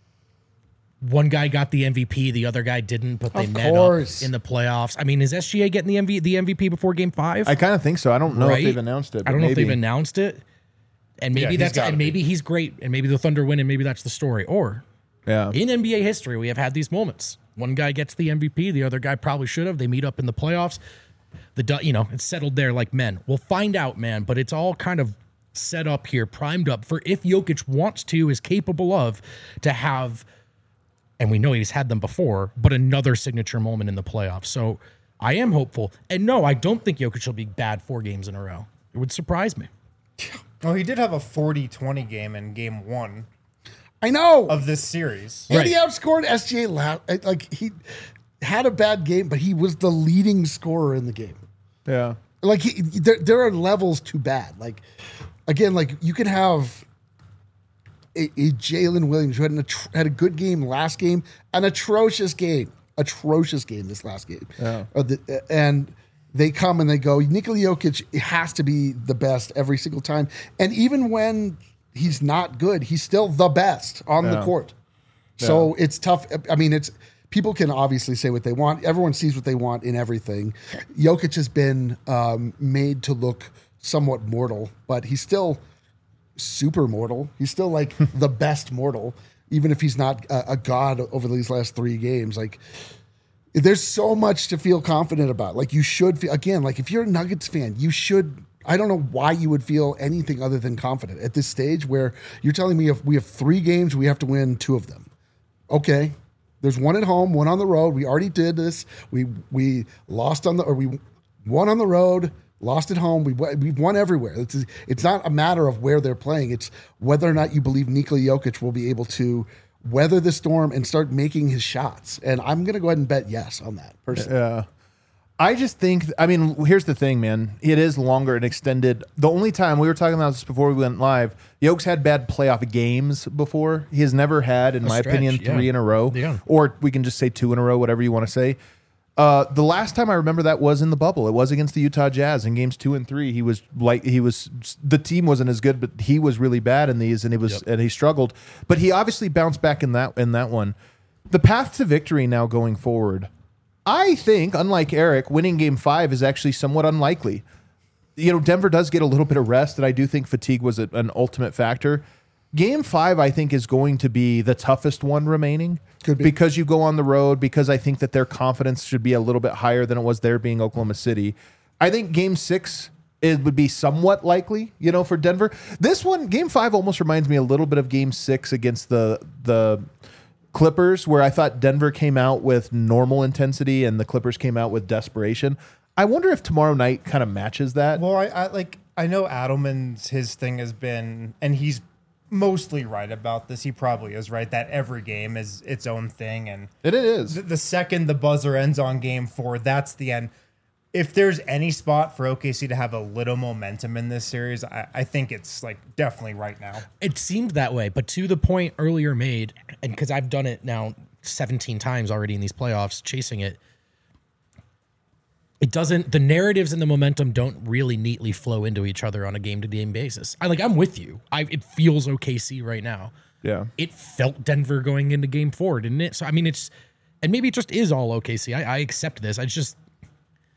[SPEAKER 3] One guy got the M V P, the other guy didn't, but they
[SPEAKER 2] Of
[SPEAKER 3] met
[SPEAKER 2] course.
[SPEAKER 3] up in the playoffs. I mean, is S G A getting the M V P, the M V P before Game Five?
[SPEAKER 1] I kind of think so. I don't know
[SPEAKER 3] Right?
[SPEAKER 1] if they've announced it.
[SPEAKER 3] I
[SPEAKER 1] but
[SPEAKER 3] don't know if
[SPEAKER 1] maybe.
[SPEAKER 3] they've announced it. And
[SPEAKER 4] Yeah,
[SPEAKER 3] maybe
[SPEAKER 4] he's
[SPEAKER 3] that's
[SPEAKER 4] gotta
[SPEAKER 3] and
[SPEAKER 4] be.
[SPEAKER 3] maybe he's great, and maybe the Thunder win, and maybe that's the story. Or
[SPEAKER 1] Yeah.
[SPEAKER 3] in N B A history, we have had these moments. One guy gets the M V P, the other guy probably should have. They meet up in the playoffs. The du- you know it's settled there like men. We'll find out, man. But it's all kind of set up here, primed up for if Jokic wants to, is capable of, to have, and we know he's had them before, but another signature moment in the playoffs. So I am hopeful. And no, I don't think Jokic will be bad four games in a row. It would surprise me.
[SPEAKER 4] Oh, he did have a forty twenty game in game one
[SPEAKER 2] I know.
[SPEAKER 4] of this series.
[SPEAKER 2] And
[SPEAKER 3] Right.
[SPEAKER 2] he outscored S G A. La- like he had a bad game, but he was the leading scorer in the game.
[SPEAKER 1] Yeah.
[SPEAKER 2] Like he, there, there are levels to bad. Like again, like you can have a, a Jalen Williams who had an, atro- had a good game last game, an atrocious game, atrocious game this last game.
[SPEAKER 1] Yeah.
[SPEAKER 2] Uh, the, and they come and they go. Nikola Jokic has to be the best every single time, and even when he's not good, he's still the best on the
[SPEAKER 1] Yeah.
[SPEAKER 2] court. So it's tough. I mean, it's people can obviously say what they want. Everyone sees what they want in everything. Jokic has been um, made to look somewhat mortal, but he's still super mortal. He's still like the best mortal, even if he's not a, a god over these last three games. Like, there's so much to feel confident about. Like, you should feel, again, like if you're a Nuggets fan, you should. I don't know why you would feel anything other than confident at this stage where you're telling me if we have three games, we have to win two of them. Okay. There's one at home, one on the road. We already did this. We we lost on the or we won on the road, lost at home. We we've won everywhere. It's it's not a matter of where they're playing. It's whether or not you believe Nikola Jokic will be able to weather the storm and start making his shots. And I'm gonna go ahead and bet yes on that personally.
[SPEAKER 1] Yeah. I just think, I mean, here's the thing, man. It is longer and extended. The only time, we were talking about this before we went live, Yoke's had bad playoff games before. He has never had, in my
[SPEAKER 3] stretch,
[SPEAKER 1] opinion,
[SPEAKER 3] yeah.
[SPEAKER 1] three in a row.
[SPEAKER 3] Yeah.
[SPEAKER 1] Or we can just say two in a row, whatever you want to say. Uh, the last time I remember that was in the bubble. It was against the Utah Jazz in games two and three. He was like, he was, the team wasn't as good, but he was really bad in these, and he was,
[SPEAKER 3] Yep.
[SPEAKER 1] and he struggled. But he obviously bounced back in that in that one. The path to victory now going forward, I think, unlike Eric, winning game five is actually somewhat unlikely. You know, Denver does get a little bit of rest, and I do think fatigue was a, an ultimate factor. Game five, I think, is going to be the toughest one remaining.
[SPEAKER 2] Could be.
[SPEAKER 1] Because you go on the road, because I think that their confidence should be a little bit higher than it was there being Oklahoma City. I think game six, it would be somewhat likely, you know, for Denver. This one, game five, almost reminds me a little bit of game six against the the Clippers, where I thought Denver came out with normal intensity and the Clippers came out with desperation. I wonder if tomorrow night kind of matches that.
[SPEAKER 4] Well, I, I like I know Adelman's his thing has been, and he's mostly right about this. He probably is right that every game is its own thing, and
[SPEAKER 1] It is.
[SPEAKER 4] the, the second the buzzer ends on game four, that's the end. If there's any spot for O K C to have a little momentum in this series, I, I think it's like definitely right now.
[SPEAKER 3] It seemed that way, but to the point earlier made, and because I've done it now seventeen times already in these playoffs, chasing it, it doesn't. The narratives and the momentum don't really neatly flow into each other on a game-to-game basis. I like. I'm with you. I it feels O K C right now.
[SPEAKER 1] Yeah.
[SPEAKER 3] It felt Denver going into Game Four, didn't it? So I mean, it's and maybe it just is all O K C. I, I accept this. I just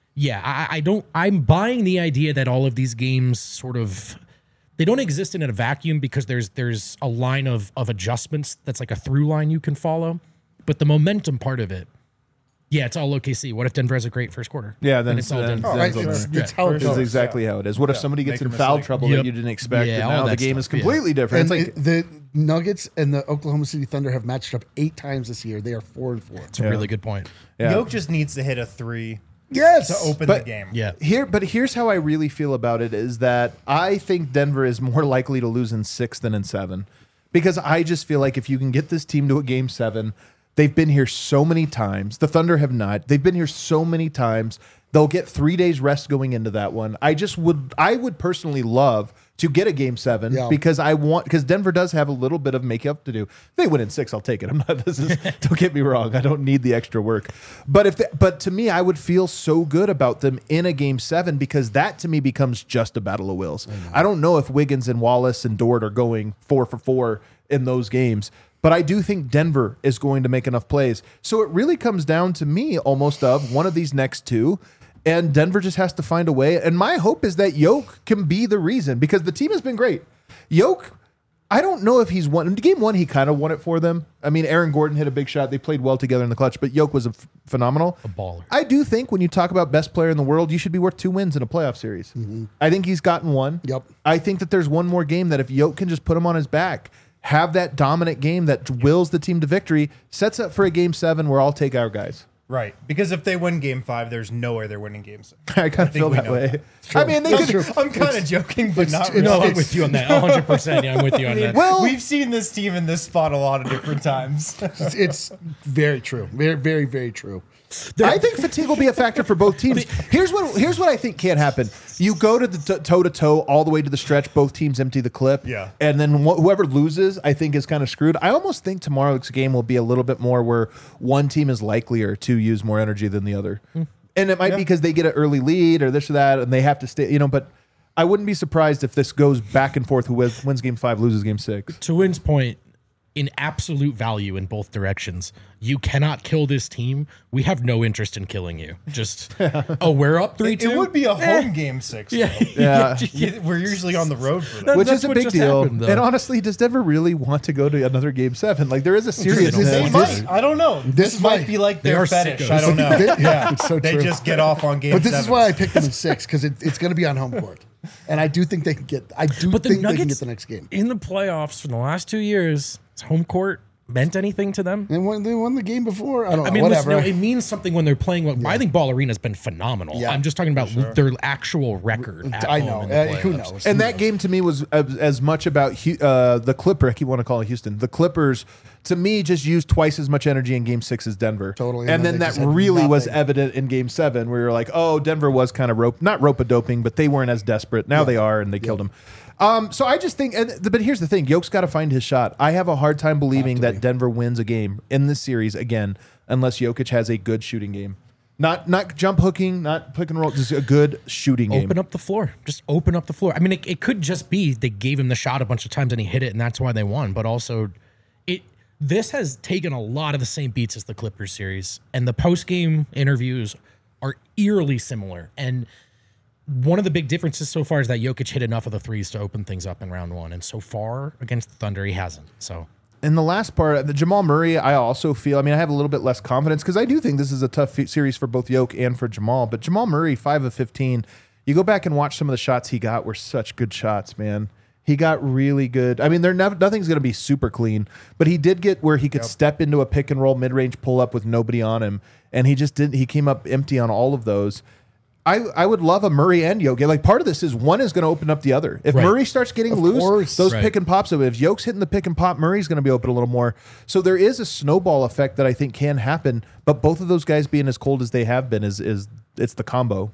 [SPEAKER 3] Yeah, I, I don't. I'm buying the idea that all of these games sort of they don't exist in a vacuum because there's there's a line of of adjustments that's like a through line you can follow, but the momentum part of it. Yeah, it's all O K C. What if Denver has a great first quarter?
[SPEAKER 1] Yeah, then
[SPEAKER 3] And it's all
[SPEAKER 1] then-
[SPEAKER 3] Denver.
[SPEAKER 1] then
[SPEAKER 2] Right,
[SPEAKER 1] it's
[SPEAKER 2] it's,
[SPEAKER 1] over.
[SPEAKER 2] it's how it
[SPEAKER 1] This
[SPEAKER 2] goes.
[SPEAKER 1] is exactly how it is. What if
[SPEAKER 4] Yeah.
[SPEAKER 1] somebody gets
[SPEAKER 4] Make
[SPEAKER 1] in
[SPEAKER 4] a
[SPEAKER 1] foul
[SPEAKER 4] mistake.
[SPEAKER 1] trouble
[SPEAKER 3] Yep.
[SPEAKER 1] that you didn't expect,
[SPEAKER 3] Yeah,
[SPEAKER 1] and
[SPEAKER 3] all
[SPEAKER 1] now the
[SPEAKER 3] that
[SPEAKER 1] game is
[SPEAKER 3] stuff, yeah.
[SPEAKER 1] completely different?
[SPEAKER 2] And
[SPEAKER 1] It's like
[SPEAKER 2] it- the Nuggets and the Oklahoma City Thunder have matched up eight times this year. They are four and four.
[SPEAKER 3] It's a really good point.
[SPEAKER 1] yeah.
[SPEAKER 4] Yoke just needs to hit a three
[SPEAKER 2] Yes.
[SPEAKER 4] to open
[SPEAKER 1] But-
[SPEAKER 4] the game.
[SPEAKER 3] Yeah.
[SPEAKER 1] Here, but here's how I really feel about it: is that I think Denver is more likely to lose in six than in seven, because I just feel like if you can get this team to a game seven, they've been here so many times. The Thunder have not. They've been here so many times. They'll get three days rest going into that one. I just would, I would personally love to get a game seven
[SPEAKER 2] Yeah.
[SPEAKER 1] because I want, because Denver does have a little bit of makeup to do. If they win in six, I'll take it. I'm not, this is, don't get me wrong. I don't need the extra work. But if, they, but to me, I would feel so good about them in a game seven because that to me becomes just a battle of wills. I don't know if Wiggins and Wallace and Dort are going four for four in those games. But I do think Denver is going to make enough plays. So it really comes down to me almost of one of these next two. And Denver just has to find a way. And my hope is that Yoke can be the reason because the team has been great. Yoke, I don't know if he's won. In game one, he kind of won it for them. I mean, Aaron Gordon hit a big shot. They played well together in the clutch, but Yoke was a f- phenomenal.
[SPEAKER 3] A baller.
[SPEAKER 1] I do think when you talk about best player in the world, you should be worth two wins in a playoff series. I think he's gotten one.
[SPEAKER 2] Yep.
[SPEAKER 1] I think that there's one more game that if Yoke can just put him on his back, have that dominant game that wills the team to victory, sets up for a game seven where I'll take our guys.
[SPEAKER 4] Right. Because if they win game five, there's no way they're winning game six.
[SPEAKER 1] I kind of
[SPEAKER 4] think
[SPEAKER 1] feel
[SPEAKER 4] we
[SPEAKER 1] that
[SPEAKER 4] know
[SPEAKER 1] way.
[SPEAKER 4] that.
[SPEAKER 1] I mean, they
[SPEAKER 2] That's
[SPEAKER 1] could.
[SPEAKER 2] true.
[SPEAKER 4] I'm kind of joking, but not
[SPEAKER 2] it's-
[SPEAKER 4] really.
[SPEAKER 3] No, I'm
[SPEAKER 2] it's-
[SPEAKER 3] with you on that. one hundred percent. Yeah, I'm with you on that.
[SPEAKER 1] Well,
[SPEAKER 4] We've seen this team in this spot a lot of different times.
[SPEAKER 2] It's, it's very true. Very, very, very true.
[SPEAKER 1] I think fatigue will be a factor for both teams. Here's what here's what I think can't happen. You go to the toe to toe all the way to the stretch. Both teams empty the clip.
[SPEAKER 4] Yeah.
[SPEAKER 1] And then wh- whoever loses, I think, is kind of screwed. I almost think tomorrow's game will be a little bit more where one team is likelier to use more energy than the other, and it might be because they get an early lead or this or that, and they have to stay. You know, but I wouldn't be surprised if this goes back and forth. Who wins wins game five, loses game six.
[SPEAKER 3] To Wynn's point, in absolute value in both directions, you cannot kill this team. We have no interest in killing you. Just, oh, we're up three
[SPEAKER 4] It,
[SPEAKER 3] two.
[SPEAKER 4] it would be a home game six.
[SPEAKER 3] Yeah.
[SPEAKER 1] Yeah.
[SPEAKER 4] though. We're usually on the road for that.
[SPEAKER 1] Which
[SPEAKER 3] That's
[SPEAKER 1] is a
[SPEAKER 3] what
[SPEAKER 1] big
[SPEAKER 3] just
[SPEAKER 1] deal.
[SPEAKER 3] happened, though.
[SPEAKER 1] And honestly, does Denver really want to go to another game seven? Like there is a serious.
[SPEAKER 2] This-
[SPEAKER 4] They
[SPEAKER 2] this-
[SPEAKER 4] might. I don't know. This,
[SPEAKER 2] This
[SPEAKER 4] might
[SPEAKER 2] might-
[SPEAKER 4] be like
[SPEAKER 3] They
[SPEAKER 4] their
[SPEAKER 3] are
[SPEAKER 4] fetish.
[SPEAKER 3] sickos.
[SPEAKER 4] I don't know.
[SPEAKER 2] Yeah, it's so
[SPEAKER 4] They
[SPEAKER 2] true.
[SPEAKER 4] just get off on game
[SPEAKER 2] But this is
[SPEAKER 4] seven.
[SPEAKER 2] why I picked them in six because it, it's going to be on home court, and I do think they can get. I do
[SPEAKER 3] But the
[SPEAKER 2] think they can
[SPEAKER 3] Nuggets
[SPEAKER 2] get the next game.
[SPEAKER 3] in the playoffs for the last two years, has home court meant anything to them?
[SPEAKER 2] And when they won the game before, I don't know.
[SPEAKER 3] I mean,
[SPEAKER 2] whatever.
[SPEAKER 3] listen, no, it means something when they're playing. Well, I think Ball Arena's been phenomenal.
[SPEAKER 2] Yeah.
[SPEAKER 3] I'm just talking about their actual record. At
[SPEAKER 2] I
[SPEAKER 3] home
[SPEAKER 2] know.
[SPEAKER 3] in the
[SPEAKER 2] Uh, who
[SPEAKER 3] playoffs.
[SPEAKER 2] knows?
[SPEAKER 1] And
[SPEAKER 2] Who
[SPEAKER 1] that
[SPEAKER 2] knows?
[SPEAKER 1] game to me was as, as much about Hu- uh, the Clipper. I keep want to call it Houston. The Clippers to me just used twice as much energy in Game Six as Denver.
[SPEAKER 2] Totally.
[SPEAKER 1] And,
[SPEAKER 2] And
[SPEAKER 1] then,
[SPEAKER 2] then they
[SPEAKER 1] that
[SPEAKER 2] just had
[SPEAKER 1] really was
[SPEAKER 2] nothing.
[SPEAKER 1] evident in Game Seven, where you're like, oh, Denver was kind of rope, not rope a doping, but they weren't as desperate. Now they are, and they killed him. Um, so I just think, and, but here's the thing: Yoke's got to find his shot. I have a hard time believing that Denver wins a game in this series again, unless Jokic has a good shooting game. Not not jump hooking, not pick and roll, just a good shooting game.
[SPEAKER 3] Open up the floor. Just open up the floor. I mean, it, it could just be they gave him the shot a bunch of times and he hit it, and that's why they won. But also, it this has taken a lot of the same beats as the Clippers series, and the post game interviews are eerily similar. And one of the big differences so far is that Jokic hit enough of the threes to open things up in round one, and so far against the Thunder, he hasn't. So.
[SPEAKER 1] And the last part, the Jamal Murray, I also feel, I mean, I have a little bit less confidence because I do think this is a tough fe- series for both Yoke and for Jamal. But Jamal Murray, five of fifteen, you go back and watch some of the shots he got were such good shots, man. He got really good. I mean, they're nev- nothing's going to be super clean, but he did get where he could step into a pick and roll mid range pull up with nobody on him. And he just didn't, he came up empty on all of those. I, I would love a Murray and Yoke. Like part of this is one is going to open up the other. If
[SPEAKER 3] Right.
[SPEAKER 1] Murray starts getting
[SPEAKER 2] Of
[SPEAKER 1] loose,
[SPEAKER 2] course.
[SPEAKER 1] those
[SPEAKER 3] Right.
[SPEAKER 1] pick and pops. So if Yoke's hitting the pick and pop, Murray's going to be open a little more. So there is a snowball effect that I think can happen. But both of those guys being as cold as they have been is is it's the combo.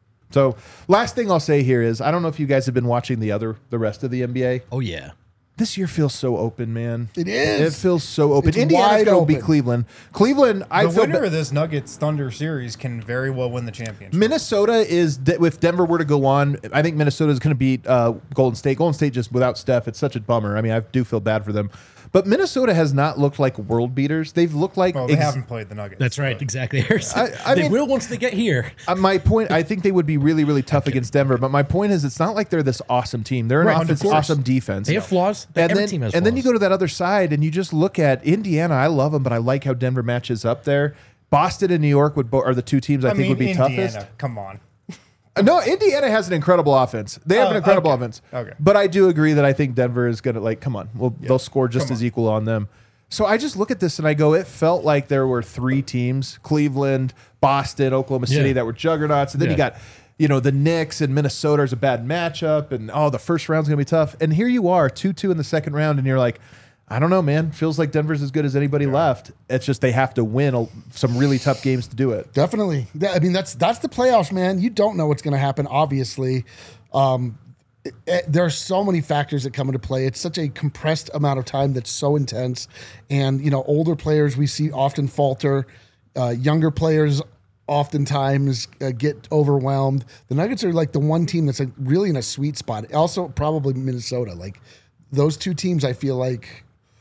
[SPEAKER 1] So last thing I'll say here is I don't know if you guys have been watching the other the rest of the N B A.
[SPEAKER 3] Oh yeah.
[SPEAKER 1] This year feels so open, man.
[SPEAKER 2] It is.
[SPEAKER 1] It feels so open.
[SPEAKER 2] It's
[SPEAKER 1] Indiana's
[SPEAKER 2] wide
[SPEAKER 1] going to beat
[SPEAKER 2] open.
[SPEAKER 1] Cleveland. Cleveland, I
[SPEAKER 4] The
[SPEAKER 1] feel
[SPEAKER 4] winner
[SPEAKER 1] ba-
[SPEAKER 4] of this Nuggets Thunder series can very well win the championship.
[SPEAKER 1] Minnesota is, de- if Denver were to go on, I think Minnesota is going to beat uh, Golden State. Golden State just without Steph, it's such a bummer. I mean, I do feel bad for them. But Minnesota has not looked like world beaters. They've looked like
[SPEAKER 4] Well, they
[SPEAKER 1] ex-
[SPEAKER 4] haven't played the Nuggets.
[SPEAKER 3] That's right,
[SPEAKER 4] but-
[SPEAKER 3] exactly. Harrison.
[SPEAKER 1] I- I
[SPEAKER 3] they
[SPEAKER 1] mean-
[SPEAKER 3] will once they get here.
[SPEAKER 1] Uh, my point, I think they would be really, really tough against Denver. But my point is, it's not like they're this awesome team. They're an
[SPEAKER 3] Right, of
[SPEAKER 1] offense,
[SPEAKER 3] course.
[SPEAKER 1] awesome defense.
[SPEAKER 3] They have flaws.
[SPEAKER 1] And
[SPEAKER 3] Every
[SPEAKER 1] then,
[SPEAKER 3] team has
[SPEAKER 1] and then you
[SPEAKER 3] flaws.
[SPEAKER 1] go to that other side, and you just look at Indiana. I love them, but I like how Denver matches up there. Boston and New York would bo- are the two teams I,
[SPEAKER 4] I
[SPEAKER 1] think
[SPEAKER 4] mean,
[SPEAKER 1] would be
[SPEAKER 4] Indiana,
[SPEAKER 1] toughest.
[SPEAKER 4] come on.
[SPEAKER 1] Uh, No, Indiana has an incredible offense. They have
[SPEAKER 4] Oh,
[SPEAKER 1] an incredible
[SPEAKER 4] okay.
[SPEAKER 1] offense.
[SPEAKER 4] Okay.
[SPEAKER 1] But I do agree that I think Denver is going to, like, come on. Well, they'll score just
[SPEAKER 4] Come
[SPEAKER 1] as
[SPEAKER 4] on.
[SPEAKER 1] equal on them. So I just look at this and I go, it felt like there were three teams, Cleveland, Boston, Oklahoma City,
[SPEAKER 3] Yeah.
[SPEAKER 1] that were juggernauts. And then you
[SPEAKER 3] Yeah.
[SPEAKER 1] got, you know, the Knicks and Minnesota is a bad matchup. And, oh, the first round's going to be tough. And here you are, two two in the second round. And you're like, I don't know, man. Feels like Denver's as good as anybody left. It's just they have to win a, some really tough games to do it.
[SPEAKER 2] Definitely. That- I mean, that's that's the playoffs, man. You don't know what's going to happen. Obviously, um, it- it- there are so many factors that come into play. It's such a compressed amount of time that's so intense, and you know, older players we see often falter. Uh, younger players oftentimes uh, get overwhelmed. The Nuggets are like the one team that's like really in a sweet spot. Also, probably Minnesota. Like those two teams, I feel like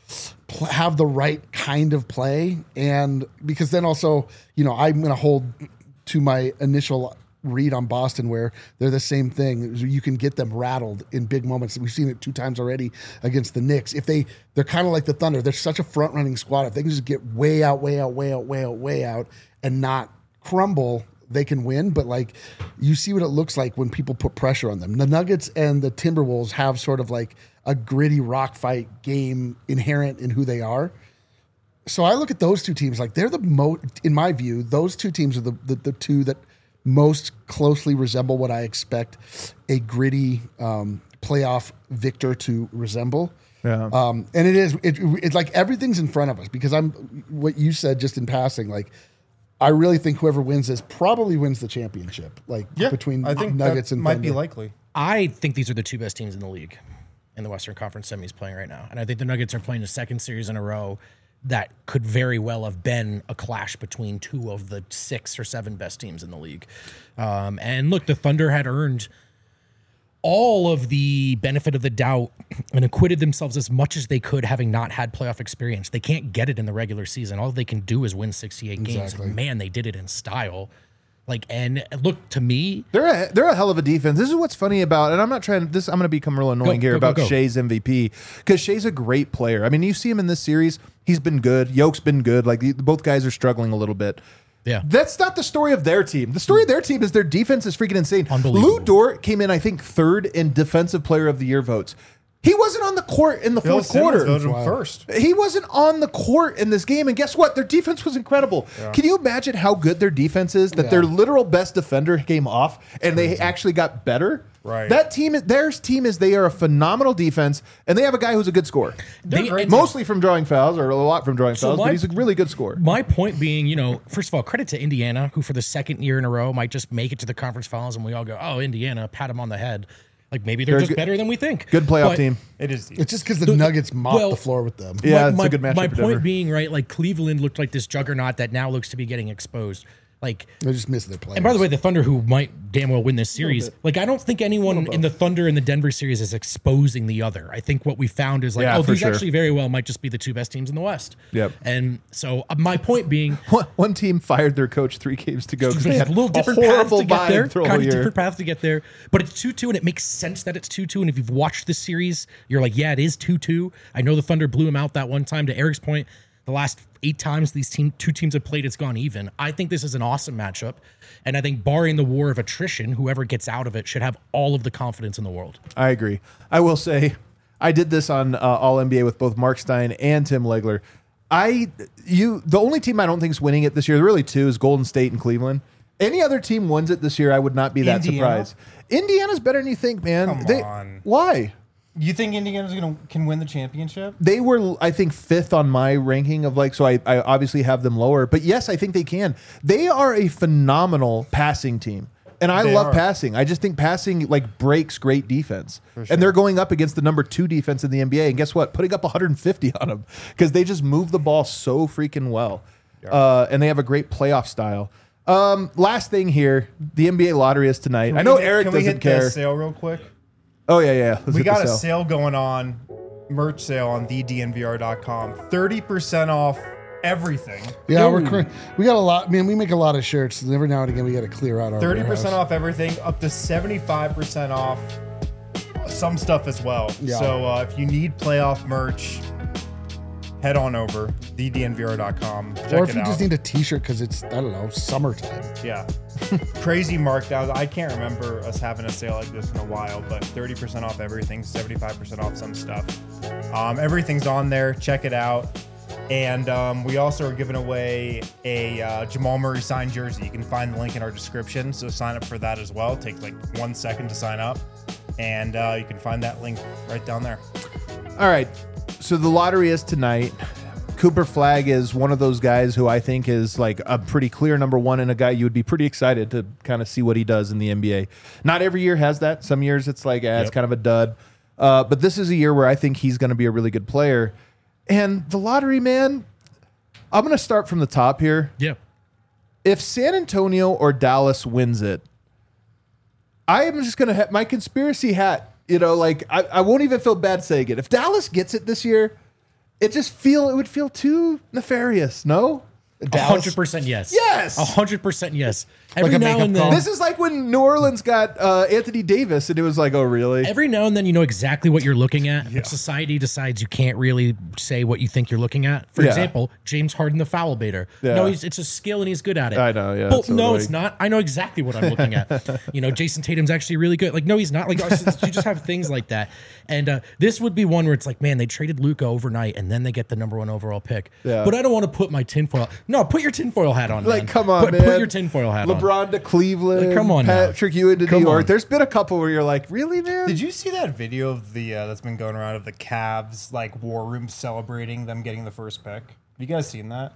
[SPEAKER 2] pl- have the right kind of play, and because then also, you know, I'm going to hold to my initial read on Boston where they're the same thing. You can get them rattled in big moments. We've seen it two times already against the Knicks. If they, they're kind of like the Thunder. They're such a front running squad. If they can just get way out, way out, way out, way out, way out, and not crumble, they can win. But like, you see what it looks like when people put pressure on them. The Nuggets and the Timberwolves have sort of like a gritty rock fight game inherent in who they are. So I look at those two teams like they're the most, in my view, those two teams are the, the, the two that most closely resemble what I expect a gritty um, playoff victor to resemble.
[SPEAKER 1] Yeah.
[SPEAKER 2] Um, and it is, it, it's like everything's in front of us because I'm, what you said just in passing, like, I really think whoever wins this probably wins the championship, like between
[SPEAKER 4] I think
[SPEAKER 2] Nuggets
[SPEAKER 4] that
[SPEAKER 2] and
[SPEAKER 4] might be
[SPEAKER 2] Thunder.
[SPEAKER 4] likely.
[SPEAKER 3] I think these are the two best teams in the league in the Western Conference semis playing right now. And I think the Nuggets are playing a second series in a row that could very well have been a clash between two of the six or seven best teams in the league. Um, and look, the Thunder had earned all of the benefit of the doubt and acquitted themselves as much as they could, having not had playoff experience. They can't get it in the regular season. All they can do is win sixty-eight games.
[SPEAKER 2] Exactly.
[SPEAKER 3] And man, they did it in style. Like, and look, to me,
[SPEAKER 1] They're a, they're a hell of a defense. This is what's funny about, and I'm not trying. This I'm going to become real annoying
[SPEAKER 3] Go,
[SPEAKER 1] here
[SPEAKER 3] go, go,
[SPEAKER 1] about
[SPEAKER 3] go.
[SPEAKER 1] Shea's M V P because Shea's a great player. I mean, you see him in this series; he's been good. Yoke's been good. Like the- both guys are struggling a little bit.
[SPEAKER 3] yeah.
[SPEAKER 1] That's not the story of their team. The story of their team is their defense is freaking insane.
[SPEAKER 3] Unbelievable.
[SPEAKER 1] Lou Dort came in, I think, third in Defensive Player of the Year votes. He wasn't on the court in the
[SPEAKER 4] Bill
[SPEAKER 1] fourth
[SPEAKER 4] Simmons
[SPEAKER 1] quarter.
[SPEAKER 4] voted him
[SPEAKER 2] Wow.
[SPEAKER 4] first.
[SPEAKER 1] He wasn't on the court in this game, and guess what? Their defense was incredible. Can you imagine how good their defense is? That
[SPEAKER 2] Yeah.
[SPEAKER 1] their literal best defender came off, and they actually got better.
[SPEAKER 4] Right.
[SPEAKER 1] That team, their team is they are a phenomenal defense, and they have a guy who's a good scorer.
[SPEAKER 3] They- and-
[SPEAKER 1] Mostly from drawing fouls, or a lot from drawing
[SPEAKER 3] So
[SPEAKER 1] fouls,
[SPEAKER 3] my-
[SPEAKER 1] but he's a really good scorer.
[SPEAKER 3] My point being, you know, first of all, credit to Indiana, who for the second year in a row might just make it to the conference finals, and we all go, "Oh, Indiana, pat them on the head." Like maybe they're,
[SPEAKER 1] They're
[SPEAKER 3] just
[SPEAKER 1] good-
[SPEAKER 3] better than we think.
[SPEAKER 1] Good playoff
[SPEAKER 3] But
[SPEAKER 1] team.
[SPEAKER 4] It is deep.
[SPEAKER 2] It's just because the, Nuggets mopped
[SPEAKER 3] well,
[SPEAKER 2] the floor with them.
[SPEAKER 1] Yeah,
[SPEAKER 3] my,
[SPEAKER 1] it's
[SPEAKER 3] my,
[SPEAKER 1] a good matchup
[SPEAKER 3] My
[SPEAKER 1] for
[SPEAKER 3] point
[SPEAKER 1] Denver.
[SPEAKER 3] being, right, like Cleveland looked like this juggernaut that now looks to be getting exposed. Like,
[SPEAKER 2] They're just missing their players.
[SPEAKER 3] and by the way, the Thunder, who might damn well win this series, like I don't think anyone in the Thunder and the Denver series is exposing the other. I think what we found is like,
[SPEAKER 1] Yeah,
[SPEAKER 3] oh,
[SPEAKER 1] for
[SPEAKER 3] these
[SPEAKER 1] sure.
[SPEAKER 3] actually very well might just be the two best teams in the West.
[SPEAKER 1] Yep.
[SPEAKER 3] And so uh, my point being,
[SPEAKER 1] One, one team fired their coach three games to go because they
[SPEAKER 3] a
[SPEAKER 1] had
[SPEAKER 3] little different
[SPEAKER 1] a
[SPEAKER 3] paths
[SPEAKER 1] horrible
[SPEAKER 3] to get
[SPEAKER 1] vibe
[SPEAKER 3] there.
[SPEAKER 1] through the
[SPEAKER 3] Kind
[SPEAKER 1] whole
[SPEAKER 3] of
[SPEAKER 1] year.
[SPEAKER 3] different paths to get there. But it's two two, and it makes sense that it's two two. And if you've watched this series, you're like, yeah, it is two two. I know the Thunder blew him out that one time. To Eric's point, the last eight times these team two teams have played, it's gone even. I think this is an awesome matchup. And I think barring the war of attrition, whoever gets out of it should have all of the confidence in the world.
[SPEAKER 1] I agree. I will say, I did this on uh, All N B A with both Mark Stein and Tim Legler. I you the only team I don't think is winning it this year, there are really two, is Golden State and Cleveland. Any other team wins it this year, I would not be that
[SPEAKER 4] Indiana?
[SPEAKER 1] surprised. Indiana's better than you think, man.
[SPEAKER 4] Come
[SPEAKER 1] They-
[SPEAKER 4] on.
[SPEAKER 1] Why?
[SPEAKER 4] You think Indiana's gonna can win the championship?
[SPEAKER 1] They were, I think, fifth on my ranking of like, so I, I obviously have them lower. But yes, I think they can. They are a phenomenal passing team. And I
[SPEAKER 4] They
[SPEAKER 1] love
[SPEAKER 4] are.
[SPEAKER 1] passing. I just think passing like breaks great defense. And they're going up against the number two defense in the N B A. And guess what? Putting up one hundred fifty on them because they just move the ball so freaking well. Uh, and they have a great playoff style. Um, last thing here, the N B A lottery is tonight. I know
[SPEAKER 4] Can we-
[SPEAKER 1] Eric
[SPEAKER 4] can we
[SPEAKER 1] doesn't
[SPEAKER 4] hit
[SPEAKER 1] care.
[SPEAKER 4] The sale real quick.
[SPEAKER 1] Oh yeah, yeah. Let's
[SPEAKER 4] We
[SPEAKER 1] hit
[SPEAKER 4] got
[SPEAKER 1] the
[SPEAKER 4] a
[SPEAKER 1] sale.
[SPEAKER 4] sale going on merch sale on the d n v r dot com. thirty percent off everything.
[SPEAKER 2] Yeah, we're cr- we got a lot. Man, we make a lot of shirts, and every now and again we got to clear out our
[SPEAKER 4] thirty percent
[SPEAKER 2] warehouse.
[SPEAKER 4] off everything, up to seventy-five percent off some stuff as well.
[SPEAKER 2] Yeah.
[SPEAKER 4] So uh, if you need playoff merch, head on over the d n v r dot com. Check
[SPEAKER 2] Or if
[SPEAKER 4] it
[SPEAKER 2] you
[SPEAKER 4] out.
[SPEAKER 2] just need a T-shirt because it's I don't know summertime.
[SPEAKER 4] Yeah. Crazy markdowns. I can't remember us having a sale like this in a while, but thirty percent off everything, seventy-five percent off some stuff. Um, everything's on there. Check it out. And um, we also are giving away a uh, Jamal Murray signed jersey. You can find the link in our description. So sign up for that as well. It takes like one second to sign up. And uh, you can find that link right down there.
[SPEAKER 1] All right. So the lottery is tonight. Cooper Flagg is one of those guys who I think is like a pretty clear number one and a guy you would be pretty excited to kind of see what he does in the N B A. Not every year has that. Some years it's like, eh, it's
[SPEAKER 3] Yep.
[SPEAKER 1] kind of a dud. Uh, but this is a year where I think he's going to be a really good player. And the lottery, man, I'm going to start from the top here.
[SPEAKER 3] Yeah.
[SPEAKER 1] If San Antonio or Dallas wins it, I am just going to have my conspiracy hat. You know, like I, I won't even feel bad saying it. If Dallas gets it this year, it just feel it would feel too nefarious. No,
[SPEAKER 3] A hundred percent yes.
[SPEAKER 1] Yes!
[SPEAKER 3] A hundred percent yes. Every
[SPEAKER 2] a
[SPEAKER 3] now
[SPEAKER 2] makeup
[SPEAKER 3] and then,
[SPEAKER 2] call?
[SPEAKER 1] this is like when New Orleans got uh, Anthony Davis, and it was like, oh, really?
[SPEAKER 3] every now and then you know exactly what you're looking at. But society decides you can't really say what you think you're looking at. For
[SPEAKER 1] Yeah.
[SPEAKER 3] example, James Harden, the foul baiter.
[SPEAKER 1] Yeah.
[SPEAKER 3] No, he's, it's a skill and he's good at it.
[SPEAKER 1] I know, yeah,
[SPEAKER 3] Well,
[SPEAKER 1] it's so
[SPEAKER 3] no,
[SPEAKER 1] annoying.
[SPEAKER 3] it's not. I know exactly what I'm looking at. You know, Jason Tatum's actually really good. Like, no, he's not. Like, you just have things like that. And uh, this would be one where it's like, man, they traded Luka overnight and then they get the number one overall pick.
[SPEAKER 1] Yeah.
[SPEAKER 3] But I don't want to put my tinfoil. No, put your tinfoil hat on.
[SPEAKER 1] Like,
[SPEAKER 3] man.
[SPEAKER 1] come on,
[SPEAKER 3] put,
[SPEAKER 1] man.
[SPEAKER 3] Put your tinfoil hat on.
[SPEAKER 1] LeBron to Cleveland.
[SPEAKER 3] Like, come on now.
[SPEAKER 1] Patrick Ewing to
[SPEAKER 3] Come
[SPEAKER 1] New York.
[SPEAKER 3] on.
[SPEAKER 1] There's been a couple where you're like, really, man?
[SPEAKER 4] Did you see that video of the uh, that's been going around of the Cavs like war room celebrating them getting the first pick? Have you guys seen that?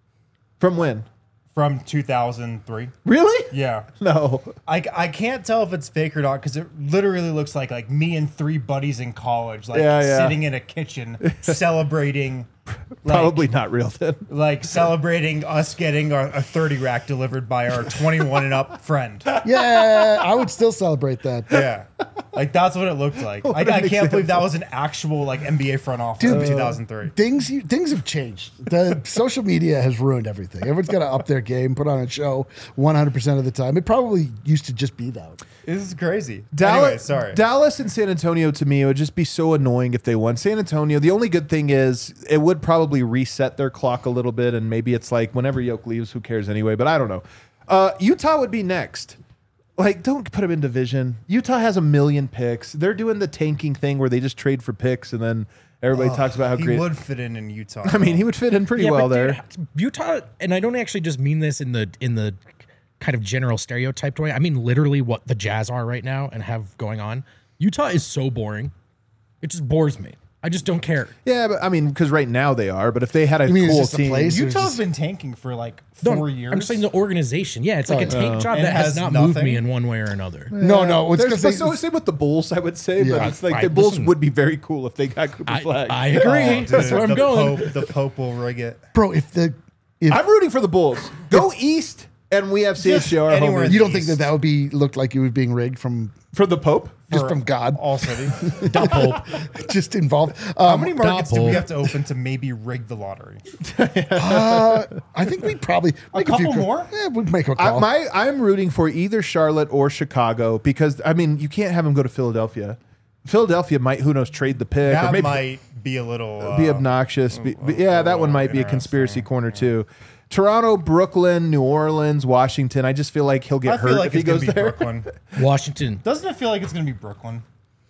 [SPEAKER 1] From when?
[SPEAKER 4] From two thousand three.
[SPEAKER 1] Really?
[SPEAKER 4] Yeah.
[SPEAKER 1] No.
[SPEAKER 4] I, I can't tell if it's fake or not because it literally looks like like me and three buddies in college, like
[SPEAKER 1] Yeah, yeah.
[SPEAKER 4] sitting in a kitchen celebrating, like,
[SPEAKER 1] Probably not real then.
[SPEAKER 4] like celebrating us getting our, a thirty rack delivered by our twenty-one and up friend.
[SPEAKER 2] Yeah, I would still celebrate that.
[SPEAKER 4] Yeah, like that's what it looked like. I,
[SPEAKER 1] an
[SPEAKER 4] I can't believe that
[SPEAKER 1] example.
[SPEAKER 4] was an actual like N B A front office in two thousand three.
[SPEAKER 2] Things you- things have changed. The social media has ruined everything. Everyone's got to up their game, put on a show one hundred percent of the time. It probably used to just be that.
[SPEAKER 4] This is crazy.
[SPEAKER 1] Dallas,
[SPEAKER 4] Anyway, sorry.
[SPEAKER 1] Dallas and San Antonio, to me, it would just be so annoying if they won. San Antonio, the only good thing is it would probably reset their clock a little bit, and maybe it's like whenever Yoke leaves, who cares anyway? But I don't know. Uh, Utah would be next. Like, don't put them in division. Utah has a million picks. They're doing the tanking thing where they just trade for picks, and then everybody talks about how
[SPEAKER 4] he
[SPEAKER 1] great.
[SPEAKER 4] would fit in in Utah.
[SPEAKER 1] I mean, he would fit in pretty
[SPEAKER 3] Yeah,
[SPEAKER 1] well
[SPEAKER 3] but
[SPEAKER 1] there.
[SPEAKER 3] dude, Utah, and I don't actually just mean this in the in the kind of general stereotyped way. I mean literally what the Jazz are right now and have going on. Utah is so boring. It just bores me. I just don't care.
[SPEAKER 1] Yeah, but I mean, because right now they are. But if they had a
[SPEAKER 2] You mean it's
[SPEAKER 1] cool
[SPEAKER 2] just a
[SPEAKER 1] team,
[SPEAKER 2] place?
[SPEAKER 4] Utah's been tanking for like
[SPEAKER 3] No,
[SPEAKER 4] four years.
[SPEAKER 3] I'm saying the organization. Yeah, it's like a tank job
[SPEAKER 4] And
[SPEAKER 3] that has
[SPEAKER 4] has
[SPEAKER 3] not moved
[SPEAKER 4] nothing?
[SPEAKER 3] me in one way or another.
[SPEAKER 2] No, no, it's
[SPEAKER 1] There's,
[SPEAKER 2] because
[SPEAKER 1] but
[SPEAKER 2] they.
[SPEAKER 1] so same with the Bulls, I would say.
[SPEAKER 2] Yeah.
[SPEAKER 1] But it's like
[SPEAKER 3] Right,
[SPEAKER 1] the Bulls
[SPEAKER 3] listen.
[SPEAKER 1] would be very cool if they got Cooper
[SPEAKER 3] I,
[SPEAKER 1] Flag.
[SPEAKER 3] I agree.
[SPEAKER 4] Oh, dude,
[SPEAKER 3] That's where I'm
[SPEAKER 4] the
[SPEAKER 3] going.
[SPEAKER 4] Pope, the Pope will rig it.
[SPEAKER 2] Bro, if the if
[SPEAKER 1] I'm rooting for the Bulls. Go east, and we have C H J R
[SPEAKER 4] Just anywhere
[SPEAKER 1] home
[SPEAKER 4] in
[SPEAKER 2] you
[SPEAKER 4] the
[SPEAKER 2] don't think that
[SPEAKER 4] East.
[SPEAKER 2] that would be looked like it was being rigged from
[SPEAKER 1] for the Pope.
[SPEAKER 2] just
[SPEAKER 4] For
[SPEAKER 2] from God,
[SPEAKER 4] All city.
[SPEAKER 3] Stop hope.
[SPEAKER 2] just involved.
[SPEAKER 4] How
[SPEAKER 2] Um,
[SPEAKER 4] many markets do
[SPEAKER 3] Double.
[SPEAKER 4] we have to open to maybe rig the lottery?
[SPEAKER 2] uh, I think we'd probably make a, few
[SPEAKER 4] couple
[SPEAKER 2] ca-
[SPEAKER 4] more?
[SPEAKER 2] Yeah, we'd make a
[SPEAKER 1] I,
[SPEAKER 2] call.
[SPEAKER 1] my I'm rooting for either Charlotte or Chicago because I mean you can't have them go to Philadelphia. Philadelphia might who knows trade the pick or
[SPEAKER 4] That
[SPEAKER 1] maybe
[SPEAKER 4] might be a little uh,
[SPEAKER 1] be obnoxious. Be- be- yeah, that one might be a conspiracy corner too. Toronto, Brooklyn, New Orleans, Washington. I just feel like he'll get
[SPEAKER 4] I
[SPEAKER 1] hurt
[SPEAKER 4] feel like
[SPEAKER 1] if he
[SPEAKER 4] it's gonna
[SPEAKER 1] goes
[SPEAKER 4] be
[SPEAKER 1] there.
[SPEAKER 4] Brooklyn.
[SPEAKER 3] Washington.
[SPEAKER 4] Doesn't it feel like it's gonna be Brooklyn?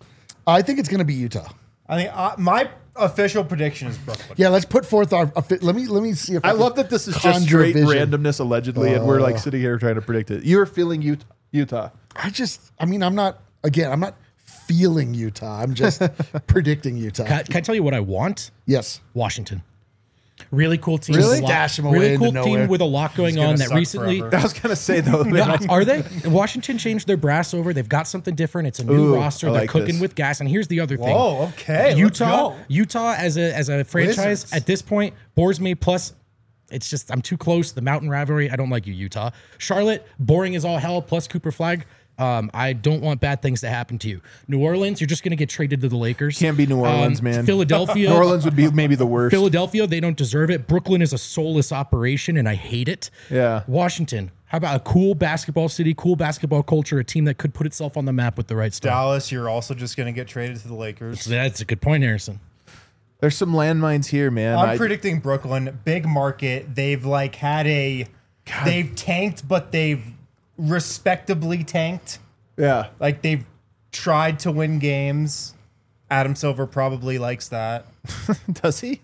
[SPEAKER 2] I think it's going to be Utah.
[SPEAKER 4] I think uh, my official prediction is Brooklyn.
[SPEAKER 2] Yeah, let's put forth our. a fi- Let me let me see if
[SPEAKER 1] I
[SPEAKER 2] can
[SPEAKER 1] love that this is just
[SPEAKER 2] conjure
[SPEAKER 1] straight
[SPEAKER 2] vision.
[SPEAKER 1] randomness allegedly, and we're like sitting here trying to predict it. You're feeling Utah. Utah.
[SPEAKER 2] I just, I mean, I'm not. Again, I'm not feeling Utah. I'm just predicting Utah.
[SPEAKER 3] Can, can I tell you what I want?
[SPEAKER 2] Yes.
[SPEAKER 3] Washington. Really cool team.
[SPEAKER 2] Really?
[SPEAKER 3] with a lot-
[SPEAKER 2] Dash 'em away
[SPEAKER 3] Really
[SPEAKER 2] into
[SPEAKER 3] cool
[SPEAKER 2] nowhere.
[SPEAKER 3] team with a lot going
[SPEAKER 4] gonna
[SPEAKER 3] on that
[SPEAKER 4] suck
[SPEAKER 3] recently.
[SPEAKER 4] forever.
[SPEAKER 1] I was gonna say though.
[SPEAKER 3] No,
[SPEAKER 1] man,
[SPEAKER 3] are they? Washington changed their brass over. They've got something different. It's a new
[SPEAKER 1] Ooh,
[SPEAKER 3] roster.
[SPEAKER 1] I
[SPEAKER 3] They're
[SPEAKER 1] like
[SPEAKER 3] cooking
[SPEAKER 1] this.
[SPEAKER 3] with gas. And here's the other thing.
[SPEAKER 4] Whoa, okay, let's
[SPEAKER 3] Utah,
[SPEAKER 4] go.
[SPEAKER 3] Utah as a as a franchise
[SPEAKER 4] Wizards.
[SPEAKER 3] at this point bores me. Plus, it's just I'm too close. The mountain rivalry. I don't like you, Utah. Charlotte, boring as all hell. Plus Cooper Flag. Um, I don't want bad things to happen to you. New Orleans, you're just going to get traded to the Lakers.
[SPEAKER 1] Can't be New Orleans,
[SPEAKER 3] Um,
[SPEAKER 1] man.
[SPEAKER 3] Philadelphia.
[SPEAKER 1] New Orleans would be maybe the worst.
[SPEAKER 3] Philadelphia, they don't deserve it. Brooklyn is a soulless operation, and I hate it.
[SPEAKER 1] Yeah.
[SPEAKER 3] Washington, how about a cool basketball city, cool basketball culture, a team that could put itself on the map with the right stuff?
[SPEAKER 4] Dallas, you're also just going to get traded to the Lakers.
[SPEAKER 3] So that's a good point, Harrison.
[SPEAKER 1] There's some landmines here, man.
[SPEAKER 4] I'm
[SPEAKER 1] I-
[SPEAKER 4] predicting Brooklyn, big market. They've like had a, they've tanked, but they've respectably tanked.
[SPEAKER 1] yeah.
[SPEAKER 4] Like they've tried to win games. Adam Silver probably likes that.
[SPEAKER 1] Does he?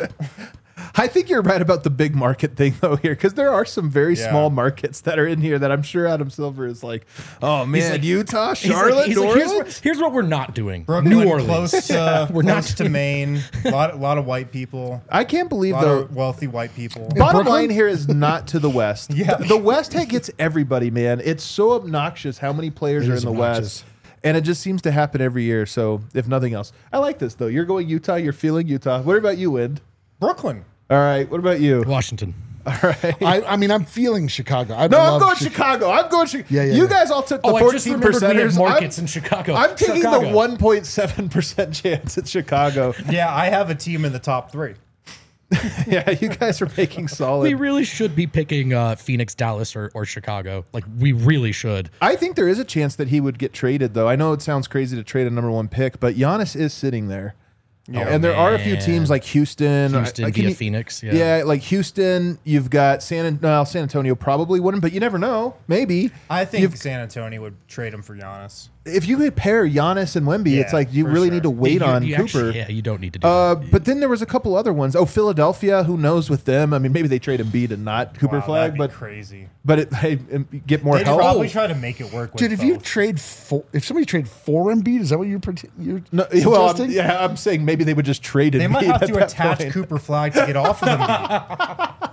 [SPEAKER 1] I think you're right about the big market thing though here, because there are some very
[SPEAKER 4] Yeah.
[SPEAKER 1] small markets that are in here that I'm sure Adam Silver is like, oh man,
[SPEAKER 3] like-
[SPEAKER 1] Utah,
[SPEAKER 3] He's like-
[SPEAKER 1] Charlotte,
[SPEAKER 3] he's
[SPEAKER 1] New
[SPEAKER 3] like, here's,
[SPEAKER 1] Orleans.
[SPEAKER 3] what, here's what we're not doing.
[SPEAKER 4] Brooklyn,
[SPEAKER 3] New Orleans.
[SPEAKER 4] close to
[SPEAKER 3] We're not-
[SPEAKER 4] close to Maine. A lot, a lot of white people.
[SPEAKER 1] I can't believe
[SPEAKER 4] A lot
[SPEAKER 1] though.
[SPEAKER 4] of wealthy white people.
[SPEAKER 1] Bottom
[SPEAKER 2] Brooklyn?
[SPEAKER 1] line here is not to the West.
[SPEAKER 4] Yeah.
[SPEAKER 1] The, the West gets everybody, man. It's so obnoxious how many players
[SPEAKER 2] It
[SPEAKER 1] are in
[SPEAKER 2] is
[SPEAKER 1] the
[SPEAKER 2] obnoxious.
[SPEAKER 1] West. And it just seems to happen every year. So, if nothing else, I like this though. You're going Utah. You're feeling Utah. What about you, Wind?
[SPEAKER 4] Brooklyn.
[SPEAKER 1] All right. What about you?
[SPEAKER 3] Washington.
[SPEAKER 1] All right.
[SPEAKER 2] I, I mean, I'm feeling Chicago. I
[SPEAKER 1] No, I'm
[SPEAKER 2] love
[SPEAKER 1] going
[SPEAKER 2] Chi-
[SPEAKER 1] Chicago. I'm going Chicago.
[SPEAKER 2] Yeah, yeah,
[SPEAKER 1] you
[SPEAKER 2] yeah.
[SPEAKER 1] guys all took the
[SPEAKER 3] Oh, I just
[SPEAKER 1] fourteen
[SPEAKER 3] remembered we had
[SPEAKER 1] percenters.
[SPEAKER 3] markets
[SPEAKER 1] I'm,
[SPEAKER 3] in Chicago.
[SPEAKER 1] I'm taking
[SPEAKER 3] Chicago.
[SPEAKER 1] the one point seven percent chance at Chicago.
[SPEAKER 4] Yeah, I have a team in the top three.
[SPEAKER 1] Yeah, you guys are making solid.
[SPEAKER 3] We really should be picking uh, Phoenix, Dallas, or, or Chicago. Like, we really should.
[SPEAKER 1] I think there is a chance that he would get traded, though. I know it sounds crazy to trade a number one pick, but Giannis is sitting there. and there are a few
[SPEAKER 3] man.
[SPEAKER 1] teams like Houston.
[SPEAKER 3] Houston
[SPEAKER 1] uh, can
[SPEAKER 3] via
[SPEAKER 1] you-
[SPEAKER 3] Phoenix. Yeah.
[SPEAKER 1] Yeah, like Houston, you've got San, no, San Antonio probably wouldn't, but you never know. Maybe.
[SPEAKER 4] I think
[SPEAKER 1] You've-
[SPEAKER 4] San Antonio would trade him for Giannis.
[SPEAKER 1] If you could pair Giannis and Wemby, it's
[SPEAKER 4] Yeah,
[SPEAKER 1] like you
[SPEAKER 4] for
[SPEAKER 1] really
[SPEAKER 4] sure.
[SPEAKER 1] need to wait
[SPEAKER 3] You-
[SPEAKER 1] on
[SPEAKER 3] you
[SPEAKER 1] Cooper.
[SPEAKER 3] actually- yeah, you don't need to do
[SPEAKER 1] Uh,
[SPEAKER 3] that.
[SPEAKER 1] but then there was a couple other ones. Oh, Philadelphia. Who knows with them? I mean, maybe they trade Embiid and not Cooper
[SPEAKER 4] Wow,
[SPEAKER 1] Flag,
[SPEAKER 4] that'd be
[SPEAKER 1] but
[SPEAKER 4] crazy.
[SPEAKER 1] but it, hey, um, get more
[SPEAKER 4] They'd
[SPEAKER 1] help.
[SPEAKER 4] probably try to make it work with
[SPEAKER 2] Dude, if you
[SPEAKER 4] both.
[SPEAKER 2] trade four, if somebody trade four Embiid, is that what you're pret- you're
[SPEAKER 1] No, well, I'm,
[SPEAKER 2] suggesting?
[SPEAKER 1] yeah, I'm saying maybe they would just trade Embiid.
[SPEAKER 4] They might have
[SPEAKER 1] at
[SPEAKER 4] to
[SPEAKER 1] that
[SPEAKER 4] attach
[SPEAKER 1] point.
[SPEAKER 4] Cooper Flag to get off of Embiid.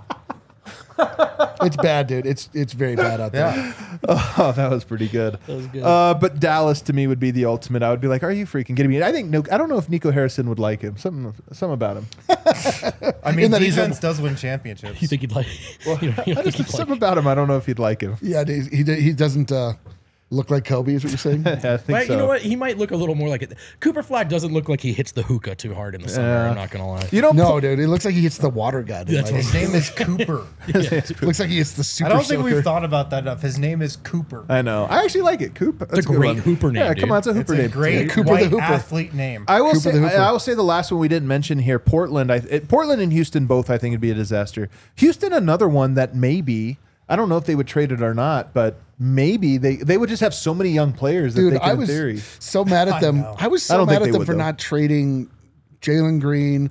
[SPEAKER 2] It's bad, dude. It's it's very bad out there.
[SPEAKER 4] Yeah.
[SPEAKER 1] Oh, that was pretty good. That
[SPEAKER 3] was good.
[SPEAKER 1] Uh, but Dallas to me would be the ultimate. I would be like, "Are you freaking kidding me?" I think no. I don't know if Nico Harrison would like him. Something, something about him.
[SPEAKER 4] I mean,
[SPEAKER 2] that he's
[SPEAKER 4] defense does win championships.
[SPEAKER 3] You think he'd like? you know, you
[SPEAKER 1] I
[SPEAKER 3] think
[SPEAKER 1] just,
[SPEAKER 3] he'd like
[SPEAKER 1] something about him. I don't know if he'd like him.
[SPEAKER 2] Yeah, he he, he doesn't uh, look like Kobe. Is what you're saying?
[SPEAKER 1] Yeah, I think
[SPEAKER 3] But
[SPEAKER 1] so.
[SPEAKER 3] you know what? He might look a little more like it. Cooper Flag doesn't look like he hits the hookah too hard in the summer.
[SPEAKER 1] Yeah.
[SPEAKER 3] I'm not gonna lie.
[SPEAKER 1] You know,
[SPEAKER 2] No, dude. It looks like he hits the water gun.
[SPEAKER 3] That's
[SPEAKER 2] Like,
[SPEAKER 4] His name is Cooper.
[SPEAKER 2] looks like he hits the
[SPEAKER 4] I
[SPEAKER 2] super.
[SPEAKER 4] don't think
[SPEAKER 2] soaker.
[SPEAKER 4] we've thought about that enough. His name is Cooper.
[SPEAKER 1] I know. I actually like it. Coop. That's
[SPEAKER 3] a
[SPEAKER 1] good
[SPEAKER 3] great
[SPEAKER 1] one.
[SPEAKER 3] Hooper name,
[SPEAKER 1] Yeah,
[SPEAKER 3] dude.
[SPEAKER 1] come on, it's a
[SPEAKER 4] It's
[SPEAKER 1] Hooper
[SPEAKER 4] a
[SPEAKER 1] name.
[SPEAKER 4] great
[SPEAKER 2] Cooper the
[SPEAKER 4] white
[SPEAKER 2] Hooper.
[SPEAKER 4] athlete name.
[SPEAKER 1] I will
[SPEAKER 2] Cooper
[SPEAKER 1] say.
[SPEAKER 2] the Hooper.
[SPEAKER 1] I, I will say the last one we didn't mention here. Portland. I, it, Portland and Houston both. I think would be a disaster. Houston, another one that maybe. I don't know if they would trade it or not, but maybe they they would just have so many young players that
[SPEAKER 2] Dude,
[SPEAKER 1] they could,
[SPEAKER 2] I
[SPEAKER 1] in
[SPEAKER 2] was
[SPEAKER 1] theory.
[SPEAKER 2] so mad at
[SPEAKER 4] I
[SPEAKER 2] them.
[SPEAKER 4] know.
[SPEAKER 2] I, was
[SPEAKER 1] I
[SPEAKER 2] so
[SPEAKER 1] don't
[SPEAKER 2] mad
[SPEAKER 1] think
[SPEAKER 2] at
[SPEAKER 1] they
[SPEAKER 2] them
[SPEAKER 1] would,
[SPEAKER 2] for
[SPEAKER 1] though.
[SPEAKER 2] not trading Jalen Green,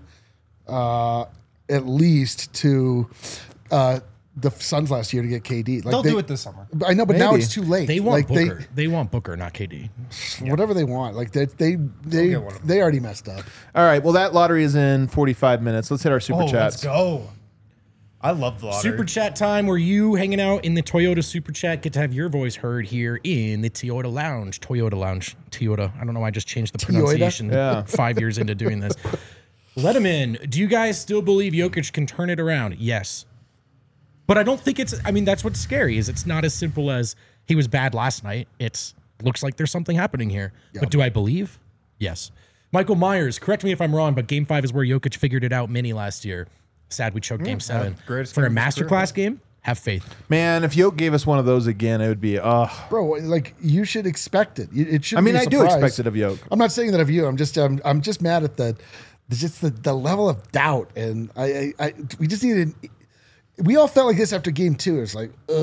[SPEAKER 2] uh, at least to uh, the Suns last year to get K D. Like
[SPEAKER 4] They'll
[SPEAKER 2] they-
[SPEAKER 4] do it this summer.
[SPEAKER 2] I know, but now
[SPEAKER 1] Maybe.
[SPEAKER 2] it's too late.
[SPEAKER 3] They want
[SPEAKER 2] like
[SPEAKER 3] Booker. They, want Booker, not K D.
[SPEAKER 2] they, whatever they want. Like they, they, they,
[SPEAKER 4] get one of them.
[SPEAKER 2] they already messed up.
[SPEAKER 1] All right. Well, that lottery is in forty-five minutes. Let's hit our super
[SPEAKER 4] Oh,
[SPEAKER 1] chats.
[SPEAKER 4] let's go. I love the lottery.
[SPEAKER 3] Super chat time where you hanging out in the Toyota Super Chat get to have your voice heard here in the Toyota Lounge. Toyota Lounge. Toyota. I don't know why I just changed the pronunciation
[SPEAKER 1] Yeah.
[SPEAKER 3] five years into doing this. Let him in. Do you guys still believe Jokic can turn it around? Yes. But I don't think it's, I mean, that's what's scary is it's not as simple as he was bad last night. It's looks like there's something happening here. But do I believe? Yes. Michael Myers, correct me if I'm wrong, but game five is where Jokic figured it out mini last year. Sad we choked game seven.
[SPEAKER 4] greatest
[SPEAKER 3] For a
[SPEAKER 4] game of his career.
[SPEAKER 3] masterclass game, have faith.
[SPEAKER 1] Man, if Yoke gave us one of those again, it would be. Oh,
[SPEAKER 2] Bro, like you should expect it. You- It should.
[SPEAKER 1] I mean,
[SPEAKER 2] be a
[SPEAKER 1] I do
[SPEAKER 2] surprise.
[SPEAKER 1] expect it of Yoke.
[SPEAKER 2] I'm not saying that of you. I'm just, um, I'm just mad at the, the just the, the level of doubt, and I, I, I, we just needed. We all felt like this after game two. It's like, uh,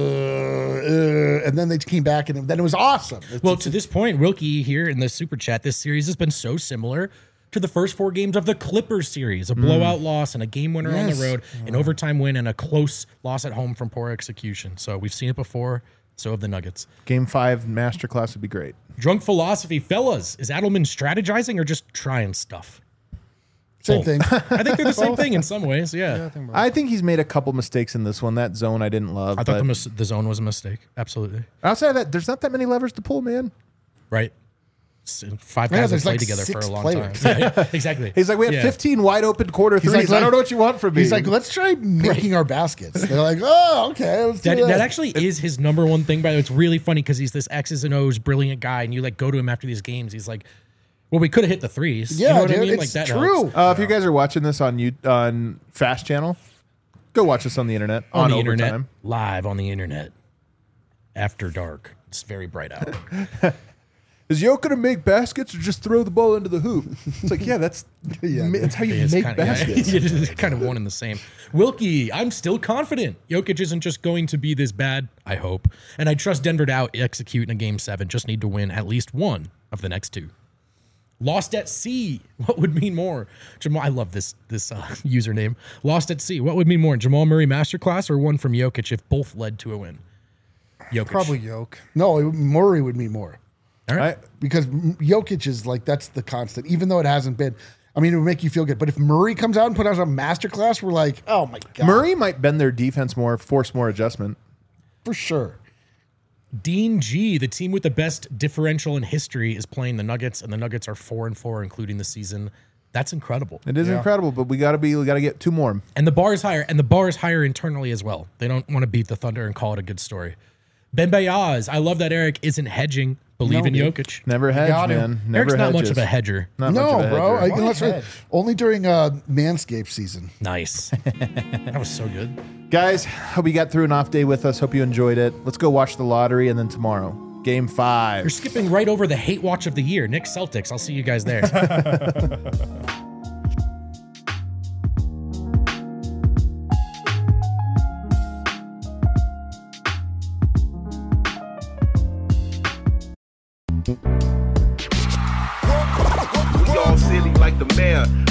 [SPEAKER 2] uh, and then they came back, and then it was awesome. It's,
[SPEAKER 3] Well, to this point, Wilkie here in the super chat, this series has been so similar to the first four games of the Clippers series, a blowout loss and a game winner on
[SPEAKER 2] Yes.
[SPEAKER 3] the road, an overtime win, and a close loss at home from poor execution. So we've seen it before. So have the Nuggets.
[SPEAKER 1] Game five masterclass would be great.
[SPEAKER 3] Drunk philosophy, fellas, is Adelman strategizing or just trying stuff?
[SPEAKER 2] same
[SPEAKER 3] both.
[SPEAKER 2] thing.
[SPEAKER 3] I think they're the same thing in some ways. Yeah.
[SPEAKER 1] I think he's made a couple mistakes in this one. That zone I didn't love.
[SPEAKER 3] I thought
[SPEAKER 1] but
[SPEAKER 3] the, mis- the zone was a mistake. Absolutely.
[SPEAKER 1] outside of that, there's not that many levers to pull, man.
[SPEAKER 3] Right. s- five
[SPEAKER 2] Yeah,
[SPEAKER 3] guys have
[SPEAKER 2] there's
[SPEAKER 3] played
[SPEAKER 2] like
[SPEAKER 3] together for
[SPEAKER 2] six
[SPEAKER 3] a long
[SPEAKER 2] players.
[SPEAKER 3] time. Yeah, exactly.
[SPEAKER 1] He's like, we have
[SPEAKER 3] Yeah.
[SPEAKER 1] fifteen wide open quarter
[SPEAKER 2] He's
[SPEAKER 1] threes.
[SPEAKER 2] like,
[SPEAKER 1] I don't know what you want from me.
[SPEAKER 2] He's like, let's try making our baskets. They're like, oh, okay. Let's do
[SPEAKER 3] That,
[SPEAKER 2] that.
[SPEAKER 3] that actually is his number one thing. By the way, it's really funny because he's this X's and O's brilliant guy, and you like go to him after these games. He's like, "Well, we could have hit the threes."
[SPEAKER 2] Yeah,
[SPEAKER 3] you know what
[SPEAKER 2] dude,
[SPEAKER 3] I mean?
[SPEAKER 2] it's
[SPEAKER 3] Like that
[SPEAKER 2] true.
[SPEAKER 3] helps.
[SPEAKER 1] Uh, if you guys are watching this on you on Fast Channel, go watch us on the internet
[SPEAKER 3] on,
[SPEAKER 1] on,
[SPEAKER 3] the
[SPEAKER 1] overtime.
[SPEAKER 3] internet, live on the internet, after dark. It's very bright out.
[SPEAKER 1] Is Yo gonna make baskets or just throw the ball into the hoop? It's like, yeah, that's
[SPEAKER 2] Yeah,
[SPEAKER 1] that's how you
[SPEAKER 3] It's
[SPEAKER 1] make
[SPEAKER 3] kinda, yeah,
[SPEAKER 1] baskets.
[SPEAKER 3] it's kind of one and the same. Wilkie, I'm still confident. Jokic isn't just going to be this bad, I hope. And I trust Denver to out execute in a game seven. Just need to win at least one of the next two. Lost at sea. What would mean more? Jamal, I love this this uh, username. Lost at sea. What would mean more? Jamal Murray masterclass or one from Jokic if both led to a win? Jokic.
[SPEAKER 4] Probably Yoke.
[SPEAKER 2] No, it- Murray would mean more.
[SPEAKER 3] All right.
[SPEAKER 1] I-
[SPEAKER 2] Because Jokic is like, that's the constant, even though it hasn't been. I mean, it would make you feel good. But if Murray comes out and put out a masterclass, we're like, oh my God.
[SPEAKER 1] Murray might bend their defense more, force more adjustment.
[SPEAKER 2] For sure.
[SPEAKER 3] Dean G, the team with the best differential in history, is playing the Nuggets, and the Nuggets are four and four, including the season. That's incredible.
[SPEAKER 1] It is
[SPEAKER 4] Yeah.
[SPEAKER 1] incredible, but we gotta be we gotta get two more.
[SPEAKER 3] And the bar is higher, and the bar is higher internally as well. They don't want to beat the Thunder and call it a good story. Ben Bayaz, I love that Eric isn't hedging. Believe
[SPEAKER 2] No,
[SPEAKER 3] in
[SPEAKER 2] dude.
[SPEAKER 3] Jokic.
[SPEAKER 1] Never hedge,
[SPEAKER 4] got him.
[SPEAKER 1] man. Never
[SPEAKER 3] Eric's not much
[SPEAKER 1] hedges.
[SPEAKER 3] of a hedger.
[SPEAKER 1] Not
[SPEAKER 2] no,
[SPEAKER 1] much of a
[SPEAKER 2] bro. I,
[SPEAKER 1] hedger.
[SPEAKER 2] unless
[SPEAKER 4] hedge?
[SPEAKER 2] only during uh, Manscaped season.
[SPEAKER 3] Nice. That was so good.
[SPEAKER 1] Guys, hope you got through an off day with us. Hope you enjoyed it. Let's go watch the lottery, and then tomorrow, game five.
[SPEAKER 3] You're skipping right over the hate watch of the year. Knicks Celtics. I'll see you guys there.
[SPEAKER 5] We all silly like the mayor.